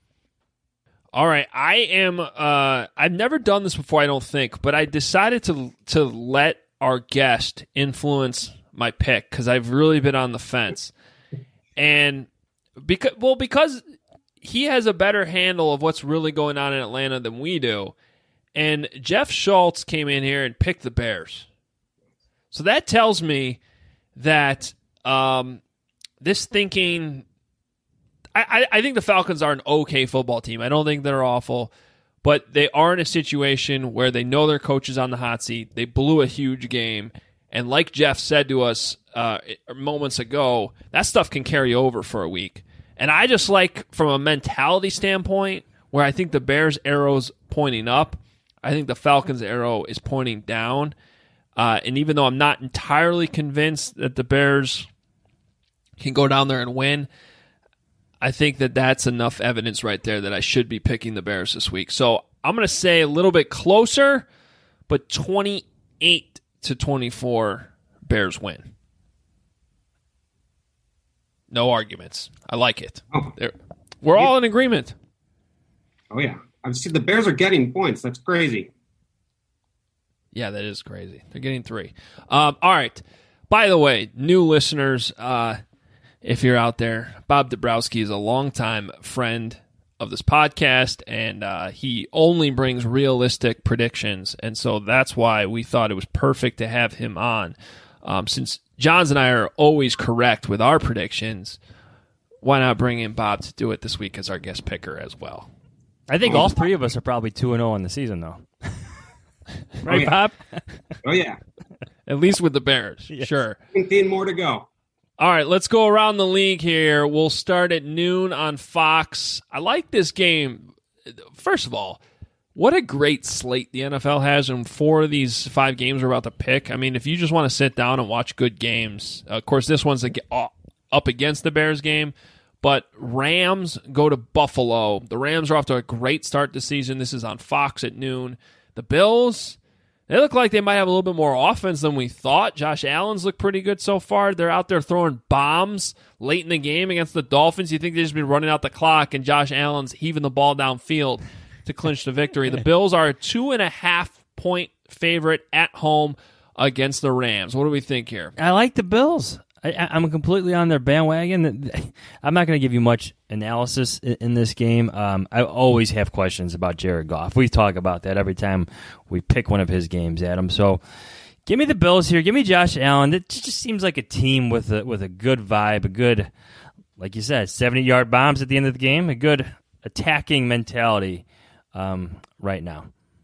All right. I am uh, I've never done this before, I don't think, but I decided to to let our guest influence my pick because I've really been on the fence. And because well, because he has a better handle of what's really going on in Atlanta than we do. And Jeff Schultz came in here and picked the Bears. So that tells me that um, this thinking, I, I think the Falcons are an okay football team. I don't think they're awful, but they are in a situation where they know their coach is on the hot seat. They blew a huge game. And like Jeff said to us uh, moments ago, that stuff can carry over for a week. And I just like, from a mentality standpoint, where I think the Bears' arrow's pointing up, I think the Falcons' arrow is pointing down. Uh, and even though I'm not entirely convinced that the Bears can go down there and win, I think that that's enough evidence right there that I should be picking the Bears this week. So I'm going to say a little bit closer, but twenty-eight to twenty-four, Bears win. No arguments. I like it. Oh. We're all in agreement. Oh, yeah. I see the Bears are getting points. That's crazy. Yeah, that is crazy. They're getting three. Um, all right. By the way, new listeners, uh, if you're out there, Bob Dabrowski is a longtime friend of this podcast, and uh, he only brings realistic predictions, and so that's why we thought it was perfect to have him on. Um, since Johns and I are always correct with our predictions, why not bring in Bob to do it this week as our guest picker as well? I think all three of us are probably two and oh in the season, though. Right, oh, yeah. Bob? Oh, yeah. At least with the Bears. Yes. Sure. seventeen more to go. All right, let's go around the league here. We'll start at noon on Fox. I like this game. First of all, what a great slate the N F L has, and four of these five games we're about to pick. I mean, if you just want to sit down and watch good games, of course, this one's up against the Bears game, but Rams go to Buffalo. The Rams are off to a great start this season. This is on Fox at noon. The Bills, they look like they might have a little bit more offense than we thought. Josh Allen's looked pretty good so far. They're out there throwing bombs late in the game against the Dolphins. You think they've just been running out the clock, and Josh Allen's heaving the ball downfield to clinch the victory. The Bills are a two and a half point favorite at home against the Rams. What do we think here? I like the Bills. I, I'm completely on their bandwagon. I'm not going to give you much analysis in, in this game. Um, I always have questions about Jared Goff. We talk about that every time we pick one of his games, Adam. So give me the Bills here. Give me Josh Allen. It just seems like a team with a, with a good vibe, a good, like you said, seventy-yard bombs at the end of the game, a good attacking mentality um, right now.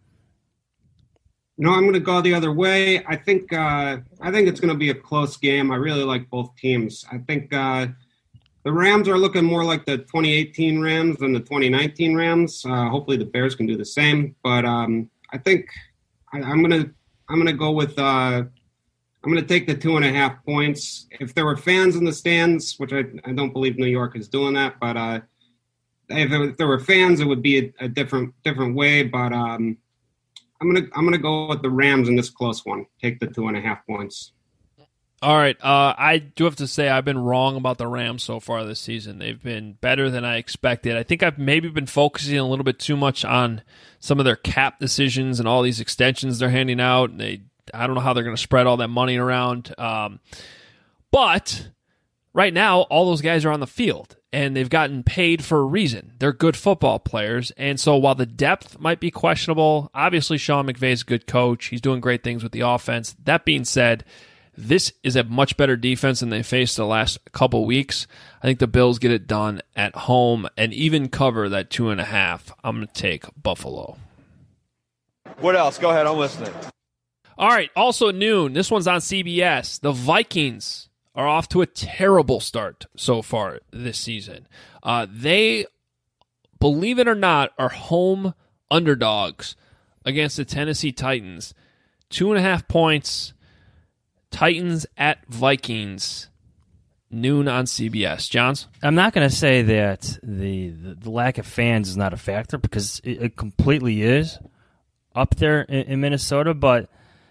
No, I'm going to go the other way. I think uh, I think it's going to be a close game. I really like both teams. I think uh, the Rams are looking more like the twenty eighteen Rams than the twenty nineteen Rams. Uh, hopefully, the Bears can do the same. But um, I think I, I'm going to I'm going to go with uh, I'm going to take the two and a half points. If there were fans in the stands, which I, I don't believe New York is doing that, but uh, if, it, if there were fans, it would be a, a different different way. But um, I'm gonna I'm gonna go with the Rams in this close one. Take the two and a half points. All right. Uh, I do have to say I've been wrong about the Rams so far this season. They've been better than I expected. I think I've maybe been focusing a little bit too much on some of their cap decisions and all these extensions they're handing out. They I don't know how they're going to spread all that money around. Um, but right now, all those guys are on the field, and they've gotten paid for a reason. They're good football players, and so while the depth might be questionable, obviously Sean McVay's a good coach. He's doing great things with the offense. That being said, this is a much better defense than they faced the last couple weeks. I think the Bills get it done at home and even cover that two and a half. I'm going to take Buffalo. What else? Go ahead. I'm listening. All right. Also at noon, this one's on C B S. The Vikings are off to a terrible start so far this season. Uh, they, believe it or not, are home underdogs against the Tennessee Titans. Two and a half points. Titans at Vikings. Noon on C B S. Johns? I'm not going to say that the, the, the lack of fans is not a factor, because it, it completely is up there in, in Minnesota. But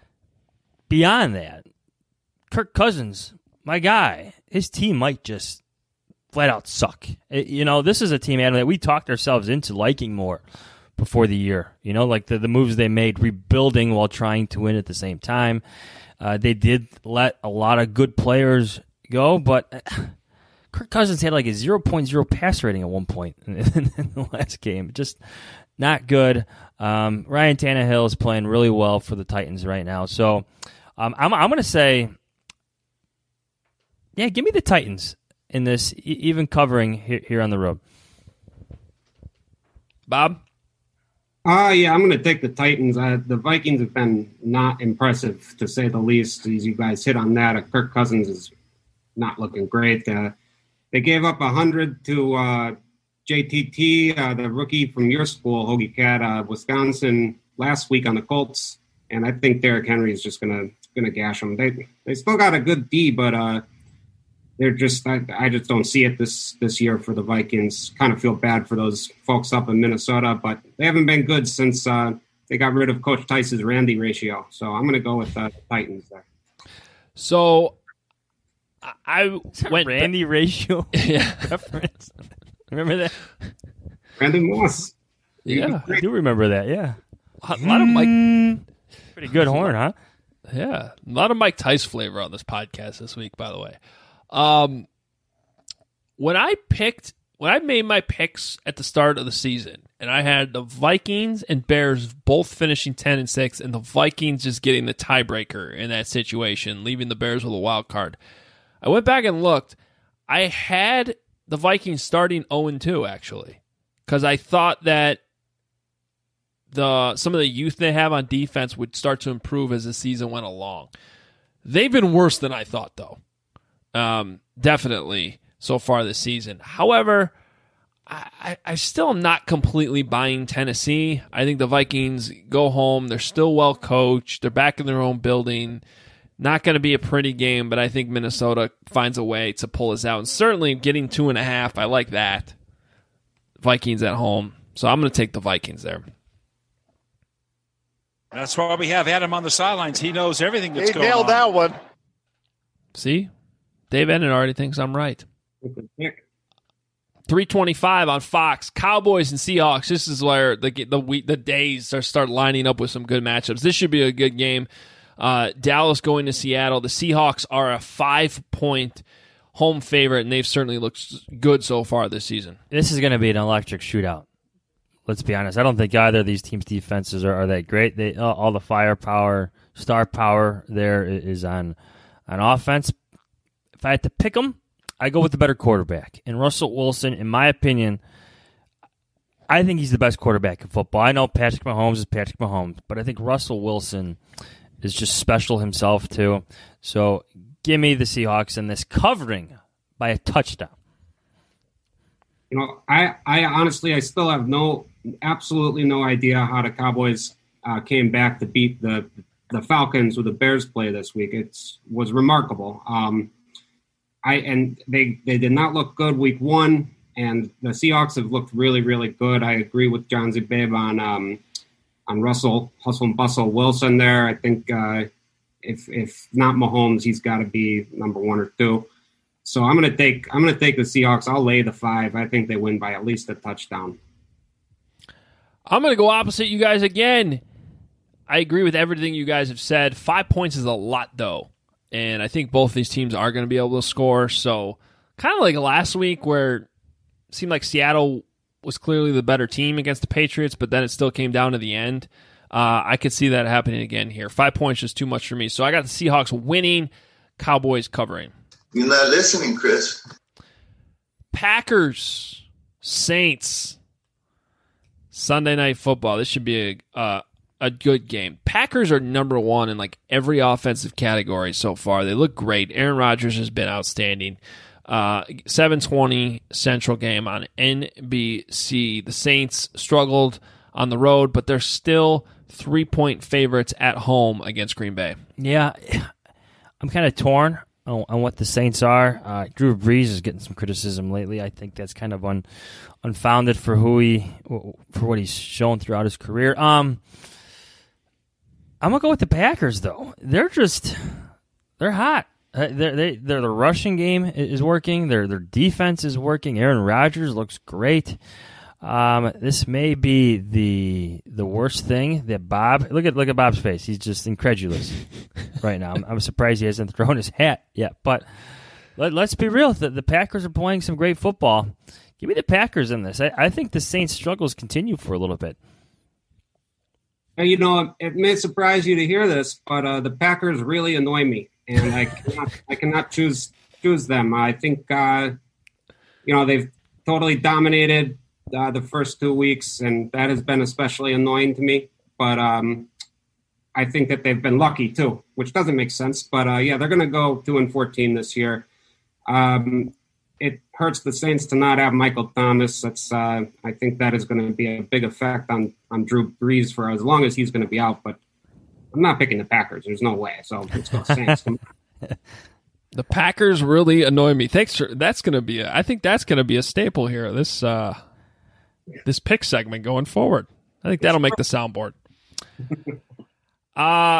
beyond that, Kirk Cousins, my guy, his team might just flat out suck. It, you know, this is a team, Adam, that we talked ourselves into liking more before the year. You know, like the, the moves they made, rebuilding while trying to win at the same time. Uh, they did let a lot of good players go, but Kirk Cousins had like a zero point zero pass rating at one point in, in, in the last game. Just not good. Um, Ryan Tannehill is playing really well for the Titans right now. So um, I'm, I'm going to say, yeah, give me the Titans in this, e- even covering here, here on the road. Bob? Uh, yeah, I'm going to take the Titans. Uh, the Vikings have been not impressive, to say the least. As you guys hit on that, uh, Kirk Cousins is not looking great. Uh, they gave up one hundred to uh, J T T, uh, the rookie from your school, Hoagie Cat, uh, Wisconsin, last week on the Colts. And I think Derrick Henry is just gonna gonna gash them. They they still got a good D, but uh, they're just I, I just don't see it this this year for the Vikings. Kind of feel bad for those folks up in Minnesota, but they haven't been good since uh, they got rid of Coach Tice's Randy ratio. So I'm gonna go with uh, the Titans there. So I went Randy ba- ratio yeah. reference. Remember that? Randy Moss. Yeah, I do remember that. Yeah, a lot of Mike. Pretty good horn, huh? Yeah, a lot of Mike Tice flavor on this podcast this week, by the way. Um, when I picked, when I made my picks at the start of the season, and I had the Vikings and Bears both finishing ten and six, and the Vikings just getting the tiebreaker in that situation, leaving the Bears with a wild card. I went back and looked. I had the Vikings starting oh and two, actually, because I thought that the some of the youth they have on defense would start to improve as the season went along. They've been worse than I thought, though. Um, definitely so far this season. However, I, I, I still am not completely buying Tennessee. I think the Vikings go home. They're still well coached. They're back in their own building. Not going to be a pretty game, but I think Minnesota finds a way to pull us out. And certainly getting two and a half, I like that. Vikings at home. So I'm going to take the Vikings there. That's why we have Adam on the sidelines. He knows everything that's he going on. He nailed that one. See? Dave Enden already thinks I'm right. three twenty-five on Fox. Cowboys and Seahawks. This is where the the week, the days are start lining up with some good matchups. This should be a good game. Uh, Dallas going to Seattle. The Seahawks are a five-point home favorite, and they've certainly looked good so far this season. This is going to be an electric shootout. Let's be honest. I don't think either of these teams' defenses are, are that great. They uh, all the firepower, star power there is on on offense. If I had to pick them, I go with the better quarterback. And Russell Wilson, in my opinion, I think he's the best quarterback in football. I know Patrick Mahomes is Patrick Mahomes, but I think Russell Wilson is just special himself too. So give me the Seahawks in this, covering by a touchdown. You know, I, I honestly, I still have no, absolutely no idea how the Cowboys uh, came back to beat the the Falcons with the Bears play this week. It was remarkable. Um, I and they they did not look good week one, and the Seahawks have looked really, really good. I agree with John Z. Babe on um, on Russell Hustle and Bustle Wilson there. I think uh, if if not Mahomes, he's got to be number one or two. So I'm gonna take I'm gonna take the Seahawks. I'll lay the five. I think they win by at least a touchdown. I'm gonna go opposite you guys again. I agree with everything you guys have said. Five points is a lot, though, and I think both these teams are going to be able to score. So kind of like last week, where it seemed like Seattle was clearly the better team against the Patriots, but then it still came down to the end. Uh, I could see that happening again here. Five points is too much for me. So I got the Seahawks winning, Cowboys covering. You're not listening, Chris. Packers, Saints, Sunday Night Football. This should be a uh, a good game. Packers are number one in like every offensive category so far. They look great. Aaron Rodgers has been outstanding. Uh, seven twenty Central game on N B C. The Saints struggled on the road, but they're still three-point favorites at home against Green Bay. Yeah, I'm kind of torn on, on what the Saints are. Uh, Drew Brees is getting some criticism lately. I think that's kind of un, unfounded for who he for what he's shown throughout his career. Um, I'm gonna go with the Packers though. They're just they're hot. Uh, they're, they they're the rushing game is working. Their their defense is working. Aaron Rodgers looks great. Um, this may be the the worst thing that Bob. Look at look at Bob's face. He's just incredulous right now. I'm, I'm surprised he hasn't thrown his hat yet. But let, let's be real. The, the Packers are playing some great football. Give me the Packers in this. I, I think the Saints' struggles continue for a little bit. You know, it may surprise you to hear this, but uh, the Packers really annoy me, and I cannot, I cannot choose choose them. I think, uh, you know, they've totally dominated uh, the first two weeks, and that has been especially annoying to me. But um, I think that they've been lucky too, which doesn't make sense. But uh, yeah, they're going to go two and fourteen this year. Um, it hurts the Saints to not have Michael Thomas. That's uh, I think that is going to be a big effect on, on Drew Brees for as long as he's going to be out. But I'm not picking the Packers. There's no way. So let's go Saints. The Packers really annoy me. Thanks for that's going to be. A, I think that's going to be a staple here. This uh, this pick segment going forward. I think that'll make the soundboard. Uh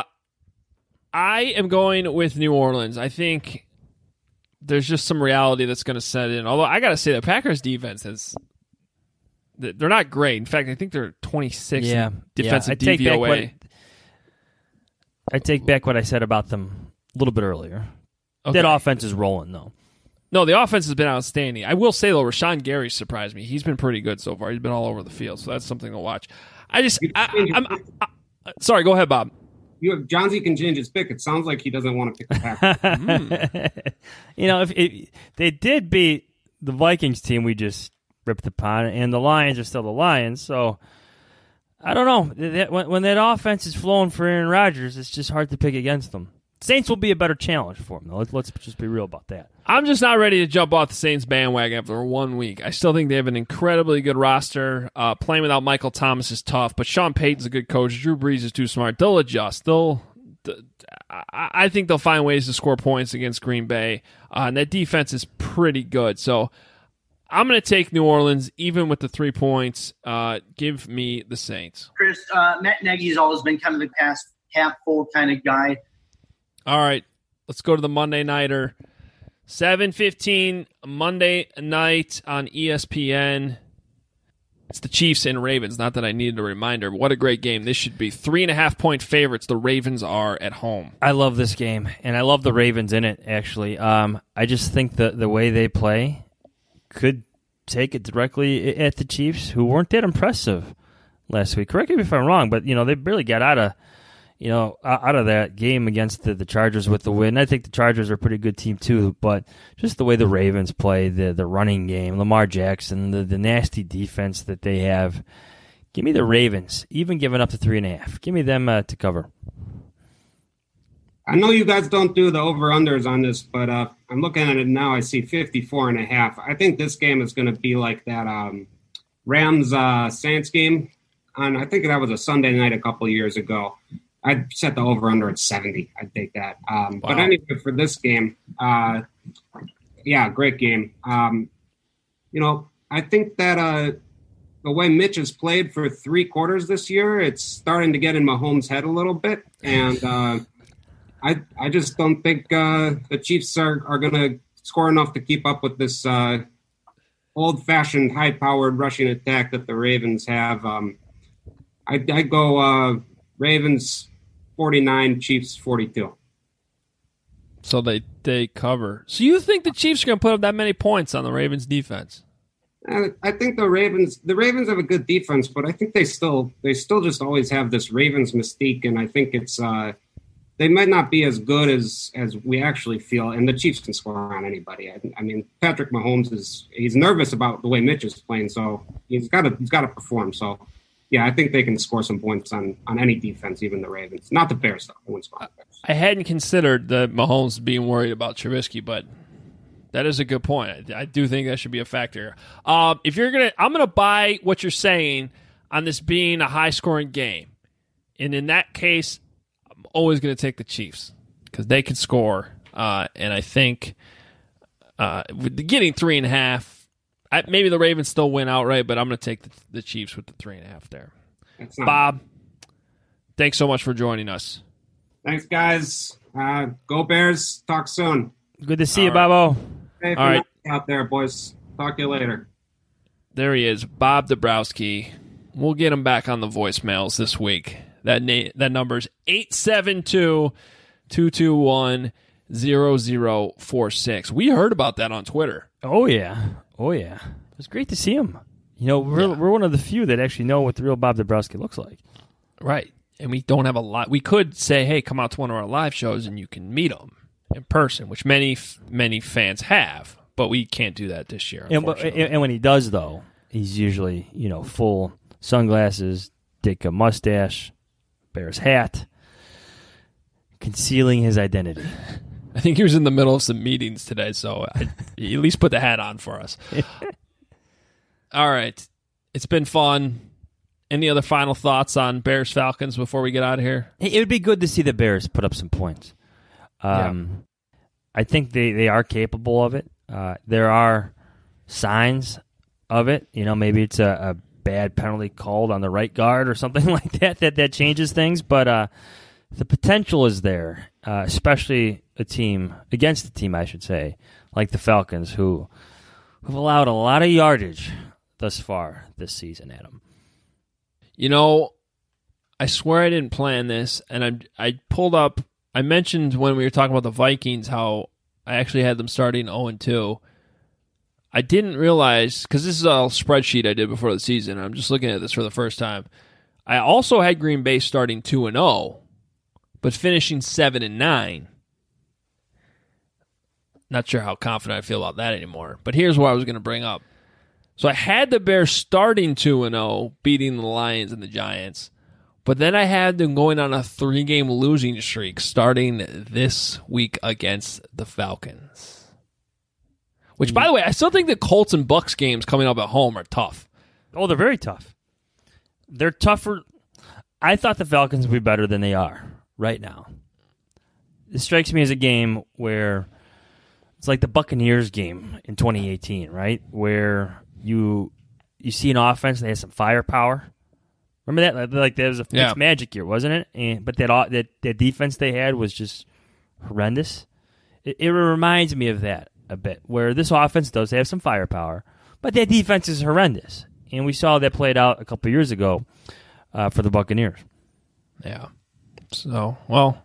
I am going with New Orleans. I think there's just some reality that's going to set in. Although I got to say the Packers defense is they're not great. In fact, I think they're twenty-sixth yeah, defensive yeah. I D V O A. Take what, I take back what I said about them a little bit earlier. Okay. That offense is rolling, though. No, the offense has been outstanding. I will say, though, Rashawn Gary surprised me. He's been pretty good so far. He's been all over the field, so that's something to watch. I just, I, I'm, I, I, sorry, go ahead, Bob. You have Johnsy can change his pick. It sounds like he doesn't want to pick the Packers. mm. You know, if it, they did beat the Vikings team, we just ripped upon, and the Lions are still the Lions. So I don't know. That, when, when that offense is flowing for Aaron Rodgers, it's just hard to pick against them. Saints will be a better challenge for him, though. Let's, let's just be real about that. I'm just not ready to jump off the Saints bandwagon after one week. I still think they have an incredibly good roster. Uh, playing without Michael Thomas is tough, but Sean Payton's a good coach. Drew Brees is too smart. They'll adjust. They'll. I think they'll find ways to score points against Green Bay, uh, and that defense is pretty good. So I'm going to take New Orleans, even with the three points. Uh, give me the Saints. Chris, uh, Matt Nagy's always been kind of a past half full kind of guy. All right, let's go to the Monday Nighter. seven fifteen Monday night on E S P N. It's the Chiefs and Ravens. Not that I needed a reminder, but what a great game this should be. Three and a half point favorites. The Ravens are at home. I love this game, and I love the Ravens in it, actually. Um, I just think the, the way they play could take it directly at the Chiefs, who weren't that impressive last week. Correct me if I'm wrong, but you know they barely got out of you know out of that game against the, the Chargers with the win. I think the Chargers are a pretty good team too, but just the way the Ravens play, the the running game, Lamar Jackson, the, the nasty defense that they have. Give me the Ravens, even giving up the three and a half. Give me them uh, to cover. I know you guys don't do the over-unders on this, but uh, I'm looking at it now. I see fifty-four and a half. I think this game is going to be like that um, Rams-Saints uh, game. On, I think that was a Sunday night a couple of years ago. I'd set the over-under at seventy. I'd take that. Um, wow. But anyway, for this game, uh, yeah, great game. Um, you know, I think that uh, the way Mitch has played for three quarters this year, it's starting to get in Mahomes' head a little bit. And uh, I I just don't think uh, the Chiefs are, are going to score enough to keep up with this uh, old-fashioned, high-powered rushing attack that the Ravens have. Um, I I go uh, Ravens forty-nine, Chiefs forty-two. So they, they cover. So you think the Chiefs are going to put up that many points on the Ravens defense? Uh, I think the Ravens the Ravens have a good defense, but I think they still they still just always have this Ravens mystique, and I think it's uh, they might not be as good as as we actually feel. And the Chiefs can score on anybody. I, I mean, Patrick Mahomes is he's nervous about the way Mitch is playing, so he's got to he's got to perform. So. Yeah, I think they can score some points on, on any defense, even the Ravens. Not the Bears, though. I wouldn't score the Bears. I hadn't considered the Mahomes being worried about Trubisky, but that is a good point. I, I do think that should be a factor. Um, if you're gonna, I'm gonna buy what you're saying on this being a high-scoring game, and in that case, I'm always gonna take the Chiefs because they can score, uh, and I think uh, with getting three and a half. I, maybe the Ravens still win outright, but I'm going to take the, the Chiefs with the three and a half there. Bob, thanks so much for joining us. Thanks, guys. Uh, go Bears. Talk soon. Good to see All you, right. Bobo. Hey, All right, out there, boys. Talk to you later. There he is, Bob Dabrowski. We'll get him back on the voicemails this week. That na- that number is eight seven two, two two one, zero zero four six. We heard about that on Twitter. Oh, yeah. Oh, yeah. It was great to see him. You know, we're, yeah. we're one of the few that actually know what the real Bob Dabrowski looks like. Right. And we don't have a lot. We could say, hey, come out to one of our live shows and you can meet him in person, which many, many fans have. But we can't do that this year, and, and when he does, though, he's usually, you know, full sunglasses, Ditka mustache, Bears hat, concealing his identity. I think he was in the middle of some meetings today, so I, he at least put the hat on for us. All right. It's been fun. Any other final thoughts on Bears Falcons before we get out of here? It would be good to see the Bears put up some points. Um, yeah. I think they, they are capable of it. Uh, there are signs of it. You know, maybe it's a, a bad penalty called on the right guard or something like that that, that changes things. But uh, the potential is there, uh, especially a team, against a team, I should say, like the Falcons, who have allowed a lot of yardage thus far this season, Adam. You know, I swear I didn't plan this, and I I pulled up, I mentioned when we were talking about the Vikings how I actually had them starting oh and two. I didn't realize, because this is a spreadsheet I did before the season, and I'm just looking at this for the first time. I also had Green Bay starting two and oh, but finishing seven and nine. Not sure how confident I feel about that anymore, but here's what I was going to bring up. So I had the Bears starting two and oh, beating the Lions and the Giants. But then I had them going on a three-game losing streak starting this week against the Falcons. Which, by the way, I still think the Colts and Bucks games coming up at home are tough. Oh, they're very tough. They're tougher. I thought the Falcons would be better than they are right now. This strikes me as a game where it's like the Buccaneers game in twenty eighteen, right? Where You you see an offense that has some firepower. Remember that? Like that was a yeah. magic year, wasn't it? And but that that that defense they had was just horrendous. It, it reminds me of that a bit, where this offense does have some firepower, but that defense is horrendous. And we saw that played out a couple years ago uh, for the Buccaneers. Yeah. So well,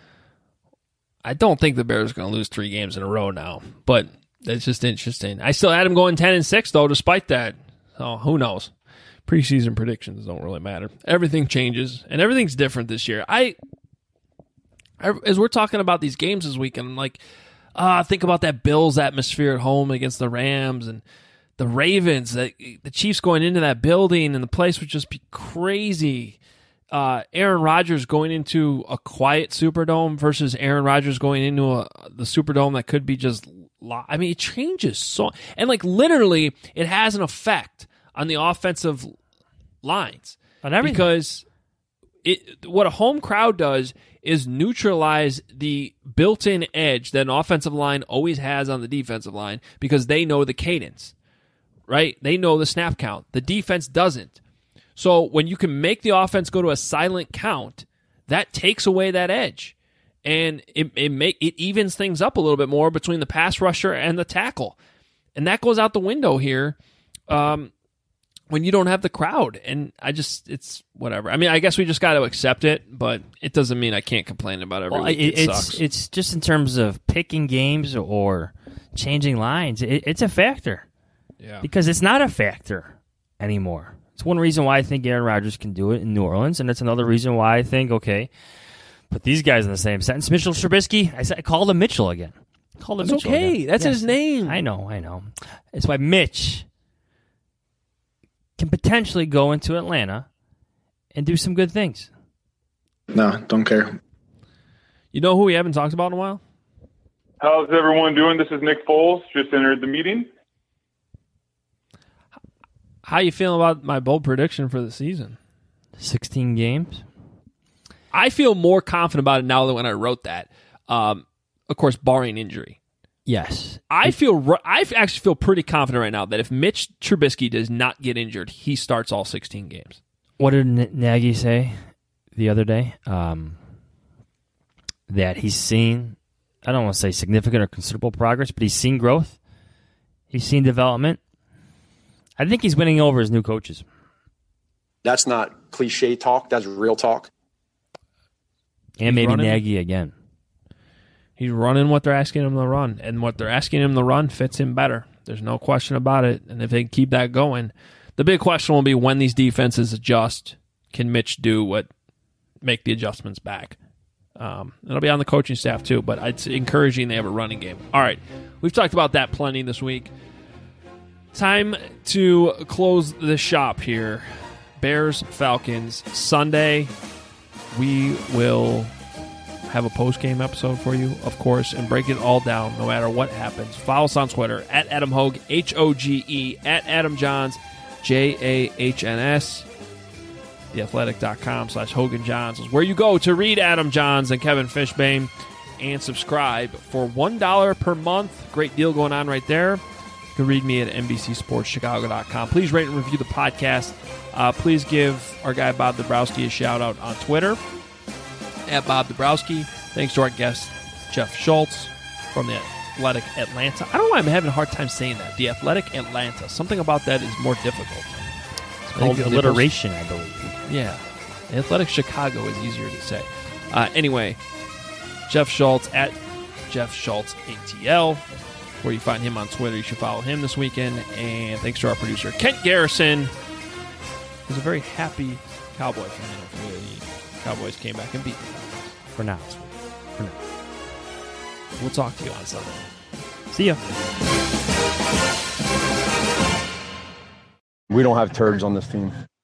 I don't think the Bears are going to lose three games in a row now, but. That's just interesting. I still had him going ten and six, though, despite that. So who knows? Preseason predictions don't really matter. Everything changes, and everything's different this year. I, I as we're talking about these games this weekend, I'm like, ah, uh, think about that Bills atmosphere at home against the Rams and the Ravens. The, the Chiefs going into that building, and the place would just be crazy. Uh, Aaron Rodgers going into a quiet Superdome versus Aaron Rodgers going into a, the Superdome that could be just. I mean, it changes so, and like literally, it has an effect on the offensive lines on everything. Because it what a home crowd does is neutralize the built-in edge that an offensive line always has on the defensive line because they know the cadence, right? They know the snap count. The defense doesn't. So when you can make the offense go to a silent count, that takes away that edge. And it it make it evens things up a little bit more between the pass rusher and the tackle, and that goes out the window here um, when you don't have the crowd. And I just it's whatever. I mean, I guess we just got to accept it, but it doesn't mean I can't complain about it every well, week. It, it it's sucks. It's just in terms of picking games or changing lines. It, it's a factor, yeah, because it's not a factor anymore. It's one reason why I think Aaron Rodgers can do it in New Orleans, and it's another reason why I think okay. Put these guys in the same sentence. Mitchell Trubisky, I, said, I called him Mitchell again. I called him It's Mitchell okay. again. That's yes. his name. I know, I know. It's why Mitch can potentially go into Atlanta and do some good things. No, don't care. You know who we haven't talked about in a while? How's everyone doing? This is Nick Foles. Just entered the meeting. How you feeling about my bold prediction for the season? sixteen games. I feel more confident about it now than when I wrote that. Um, of course, barring injury. Yes. I feel. I actually feel pretty confident right now that if Mitch Trubisky does not get injured, he starts all sixteen games. What did N- Nagy say the other day? Um, that he's seen, I don't want to say significant or considerable progress, but he's seen growth. He's seen development. I think he's winning over his new coaches. That's not cliche talk. That's real talk. And He's maybe running. Nagy again. He's running what they're asking him to run, and what they're asking him to run fits him better. There's no question about it. And if they keep that going, the big question will be when these defenses adjust, can Mitch do what make the adjustments back? Um, it'll be on the coaching staff too, but it's encouraging they have a running game. All right, we've talked about that plenty this week. Time to close the shop here. Bears, Falcons, Sunday. We will have a post-game episode for you, of course, and break it all down no matter what happens. Follow us on Twitter, at Adam Hoge, H O G E, at Adam Johns, J A H N S. theathletic.com slash Hogan Johns is where you go to read Adam Johns and Kevin Fishbane, and subscribe for one dollar per month. Great deal going on right there. You can read me at N B C Sports Chicago dot com. Please rate and review the podcast. Uh, please give our guy Bob Dabrowski a shout-out on Twitter, at Bob Dabrowski. Thanks to our guest, Jeff Schultz from the Athletic Atlanta. I don't know why I'm having a hard time saying that. The Athletic Atlanta. Something about that is more difficult. It's called alliteration, I believe. Yeah. Athletic Chicago is easier to say. Uh, anyway, Jeff Schultz at Jeff Schultz A T L, where you find him on Twitter. You should follow him this weekend. And thanks to our producer, Kent Garrison, who's a very happy Cowboy fan after the Cowboys came back and beat the Cowboys. For now. For now. We'll talk to you on Sunday. See ya. We don't have turds on this team.